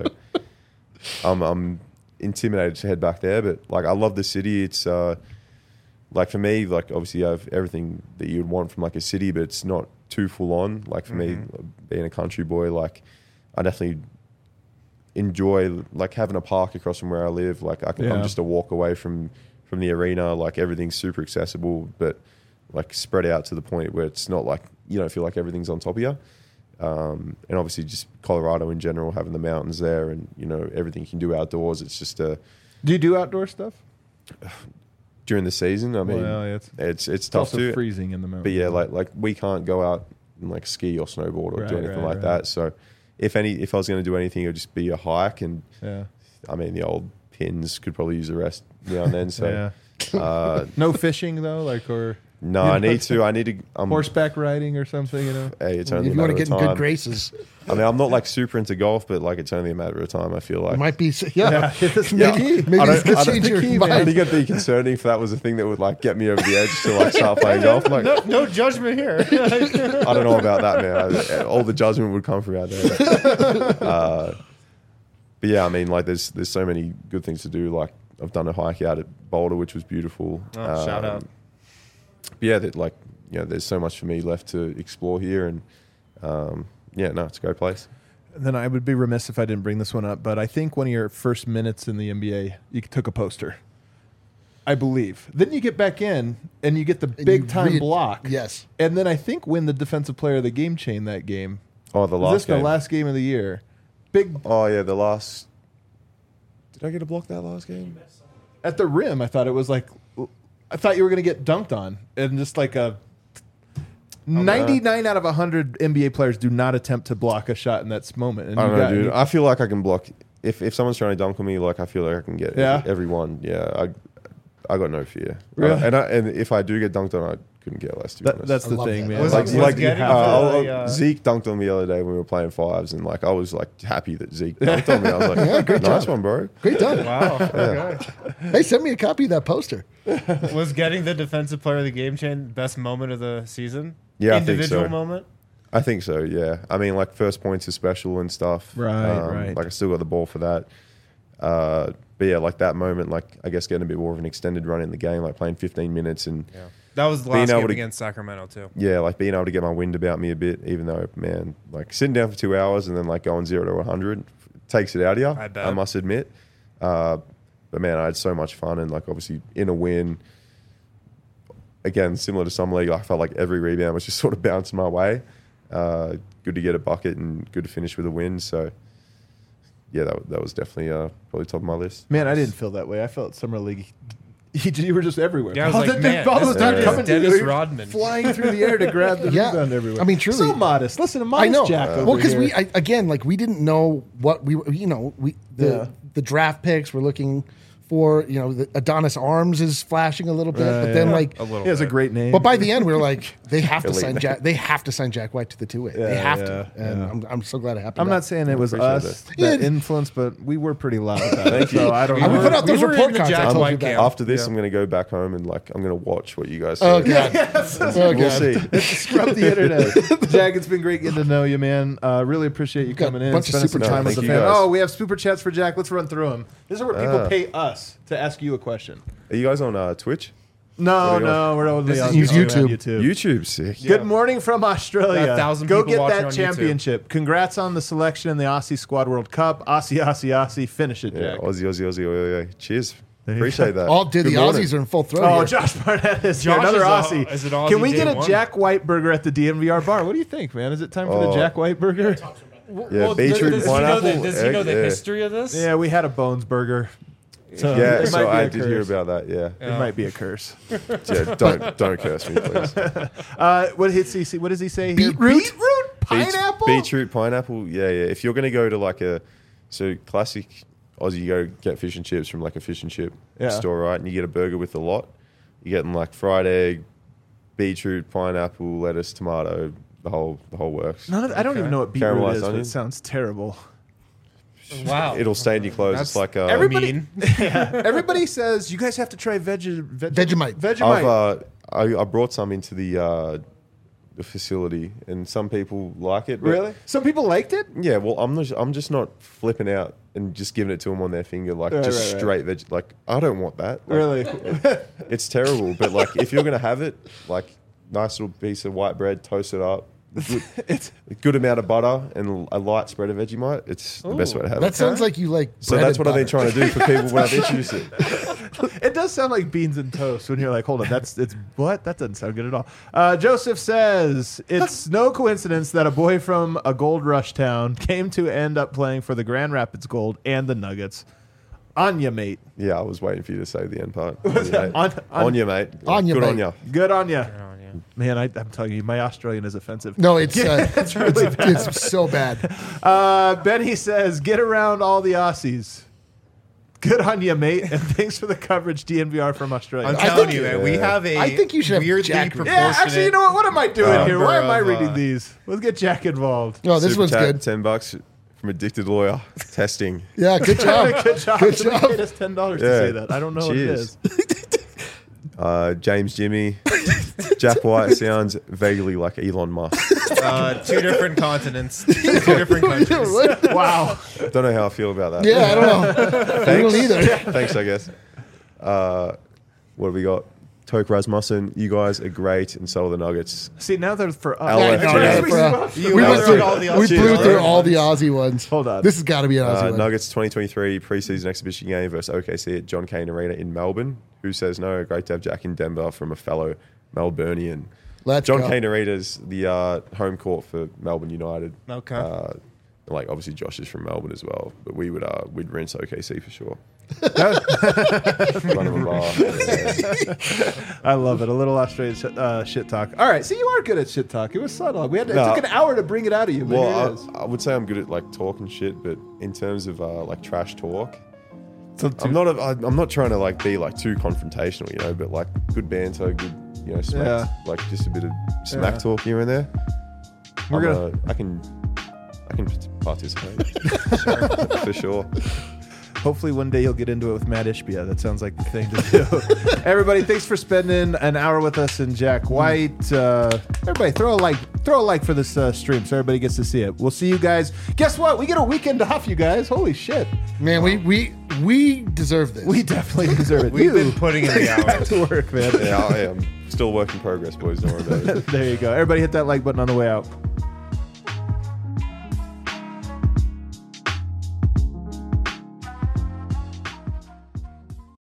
I'm I'm intimidated to head back there. But like, I love the city. It's uh, like for me, like obviously you have everything that you would want from like a city, but it's not too full on. Like for me, being a country boy, like I definitely enjoy like having a park across from where I live. Like I can, Yeah. I'm just a walk away from from the arena. Like everything's super accessible, but like spread out to the point where it's not like you don't feel like everything's on top of you. Um, and obviously just Colorado in general, having the mountains there, and you know everything you can do outdoors. It's just a Do you do outdoor stuff? during the season. I mean, Well, yeah, it's, it's it's it's tough also to. freezing in the mountains. But yeah, like like we can't go out and like ski or snowboard or Right, do anything right, like right. that. So if any, if I was going to do anything, it would just be a hike. And yeah, I mean, the old pins could probably use a rest now and then. So yeah. uh, No fishing though, like or no, You I know, need to. I need to. Um, horseback riding or something. You know. Hey, it's If only you a want matter to of get in time. good graces, I mean, I'm not like super into golf, but like it's only a matter of time. I feel like it might be. Yeah, it's maybe, the key. maybe I it's don't- gonna I don't change your think- I mind. think it'd be concerning if that was a thing that would like get me over the edge to like start playing golf. I'm like, No, no judgment here. I don't know about that, man. I, all the judgment would come from out there. Uh, but yeah, I mean, like, there's there's so many good things to do. Like, I've done a hike out at Boulder, which was beautiful. Oh, shout out. But yeah, that like, you know, there's so much for me left to explore here, and um, yeah, no, it's a great place. And then I would be remiss if I didn't bring this one up, but I think one of your first minutes in the N B A, you took a poster. I believe. Then you get back in and you get the And big you time read- block. Yes. And then I think win the defensive player of the game chain that game. Oh, the Was last this game. the last game of the year? Big Oh yeah, the last. Did I get a block that last game? at the rim. I thought it was like I thought you were going to get dunked on, and just like a ninety-nine out of one hundred N B A players do not attempt to block a shot in that moment. And I you don't know, got- dude. you- I feel like I can block if if someone's trying to dunk on me. Like I feel like I can get Yeah? every, everyone. Yeah, I I got no fear. Really? Uh, and I, and if I do get dunked on, I couldn't get less. To be that, honest. that's I the love thing, that. man. Was like, it- Like, was like getting uh, for I'll- the, uh, Zeke dunked on me the other day when we were playing fives, and like I was like happy that Zeke dunked on me. I was like, nice one, bro. Great done. Wow. Okay. Hey, send me a copy of that poster. Was getting the defensive player of the game chain best moment of the season? Yeah, I think Individual so. moment? I think so. Yeah, I mean, like first points are special and stuff. Right, right. Like I still got the ball for that. Uh, but yeah, like that moment, like I guess getting a bit more of an extended run in the game, like playing fifteen minutes and Yeah. That was the Being last able game to- against Sacramento too. yeah, like being able to get my wind about me a bit, even though, man, like sitting down for two hours and then like going zero to one hundred takes it out of you, I bet. I must admit. Uh, but man, I had so much fun and like obviously in a win, again, similar to Summer League, I felt like every rebound was just sort of bouncing my way. Uh, good to get a bucket and good to finish with a win. So yeah, that, that was definitely uh, probably top of my list. Man, I didn't feel that way. I felt summer league. You, you were just everywhere. Yeah, I was All like, the- man, all this those times is coming to you, Dennis you're Rodman. flying through the air to grab the Yeah. rebound everywhere. I mean, truly. so modest. Listen to I modest know. Jack. Uh, over well, because here. we I, again, like we didn't know what we were. You know, we the Yeah. the draft picks we're looking for. You know, the Adonis Arms is flashing a little bit, Uh, but then yeah. like, A little he has a bit. great name. but by the end we were like, they have to Elite sign name. Jack. They have to sign Jack White to the two way. Yeah, they have yeah, to, and yeah. I'm, I'm so glad it happened. I'm not saying it was appreciate us that, Yeah. influenced, but we were pretty loud about it. Thank you. So I don't And we know. put out those we were report in the cards. I Jack told White you that. camp. After this, Yeah. I'm going to go back home and like I'm going to watch what you guys Oh say. god. Oh god. We'll see. Scrub the internet. Jack, it's been great getting to know you, man. Uh, really appreciate you got coming a in, bunch of spending some super time chats. with the Thank fan. you, guys. Oh, we have super chats for Jack. Let's run through them. This is where people Ah. pay us to ask you a question. Are you guys on uh, Twitch? No, What are you no, we're only This on is YouTube. YouTube. YouTube, sick. Good morning from Australia. Got a thousand Go people get watching that on YouTube. championship. Congrats on the selection in the Aussie Squad World Cup. Aussie, Aussie, Aussie. Finish it, Yeah, Jack. Aussie, Aussie, Aussie, Aussie, Aussie. Cheers. you Appreciate that. All did Good the morning. Aussies are in full throw. Oh, here. Josh Barnett is here. Josh Another is a- Aussie. is an Aussie Can we get day a one. Jack White burger at the D M V R bar? What do you think, man? Is it time for the Oh. Jack White burger? Yeah, beetroot, does he know the, pineapple, does he know egg, the yeah. history of this? Yeah, we had a Bones burger. So Yeah, it might so be I a did hear curse. about that. Yeah, It might be a curse. yeah. Don't don't curse me, please. Uh, what hits he say? What does he say here? Beetroot? Beetroot? Beet- Pineapple? beetroot, pineapple. Yeah, yeah. If you're gonna go to like a so classic Aussie, you go get fish and chips from like a fish and chip Yeah. store, right? And you get a burger with a lot. You're getting like fried egg, beetroot, pineapple, lettuce, tomato, the whole the whole works. None of, I don't Okay. even know what beetroot Caramelized is, but onion? it sounds terrible. Wow. It'll stain your clothes. That's it's like uh, everybody- mean. Everybody says you guys have to try veg- veg- Vegemite. Vegemite. I've uh, I, I brought some into the uh, the facility, and some people like it. but- really? Some people liked it. Yeah. Well, I'm not. I'm just not flipping out and just giving it to them on their finger, like Right, just right, straight veg. Like I don't want that. Like, Really? It's terrible. But like, if you're gonna have it, like nice little piece of white bread, toast it up. Good, it's a good amount of butter and a light spread of Vegemite. It's the best way to have That it. sounds like you like. So that's what I've been trying to do for people when I've introduced it. it does sound like beans and toast when you're like, hold on, that's it's what? That doesn't sound good at all. Uh, Joseph says it's no coincidence that a boy from a gold rush town came to end up playing for the Grand Rapids Gold and the Nuggets. Anya, mate. Yeah, I was waiting for you to say the end part. On you, mate. On- on- On you, mate. On you, Good mate. on you. Good on you. Oh, yeah. Man, I, I'm telling you, my Australian is offensive. No, it's uh, it's really it's, it's so bad. Uh, Benny says, get around all the Aussies. Good on you, mate. And thanks for the coverage, D N V R from Australia. I'm I telling think- you, man, we Yeah. have a I think you should have weirdly Jack read. proportionate. Yeah, actually, you know what? What am I doing Uh, here? Why am I number of, reading uh, these? Let's get Jack involved. No, this Super one's chat, good. Ten bucks from Addicted Lawyer. Testing. Yeah, good job. Good job. Good Somebody job. paid us ten dollars to Yeah. say that. I don't know Cheers. what it is. Uh, James Jimmy. Jack White sounds vaguely like Elon Musk. Uh, two different continents, two different countries. Wow. Don't know how I feel about that. Yeah, I don't know. I Thanks. don't either. Thanks, I guess. Uh, what have we got? Toke Rasmussen, you guys are great, and so are the Nuggets. See, now they're for us. L F Yeah, G. no, Yeah, yeah, for, You we went went through through all the We Aussie blew ones. through all the Aussie ones. Hold on. This has got to be an Aussie Uh, one. Nuggets twenty twenty-three preseason exhibition game versus O K C at John Cain Arena in Melbourne. Who says no? Great to have Jack in Denver from a fellow Melburnian. Let's John go. Cain Arena's the uh, home court for Melbourne United. Okay. Uh, and, like obviously Josh is from Melbourne as well, but we would uh, we'd rinse O K C for sure. Run of a bar. Yeah. I love it. A little Australian sh- uh, shit talk. All right. See, you are good at shit talk. It was subtle. We had to, No. It took an hour to bring it out of you. But here it Well, is. I, I would say I'm good at like talking shit, but in terms of uh, like trash talk, So I'm not. A, I, I'm not trying to like be like too confrontational, you know. But like good banter, good, you know, smack, Yeah. like just a bit of smack Yeah. talk here and there. We're I'm, gonna- uh, I can. I can participate for sure. Hopefully one day you'll get into it with Matt Ishbia. That sounds like the thing to do. Everybody, thanks for spending an hour with us and Jack White. Uh, everybody, throw a like, throw a like for this uh, stream so everybody gets to see it. We'll see you guys. Guess what? We get a weekend off, you guys. Holy shit! Man, we we We deserve this. We definitely deserve it. We've you been putting in the back hours. to work, man. Yeah, I am still work in progress, boys. Don't worry about it. There you go. Everybody hit that like button on the way out.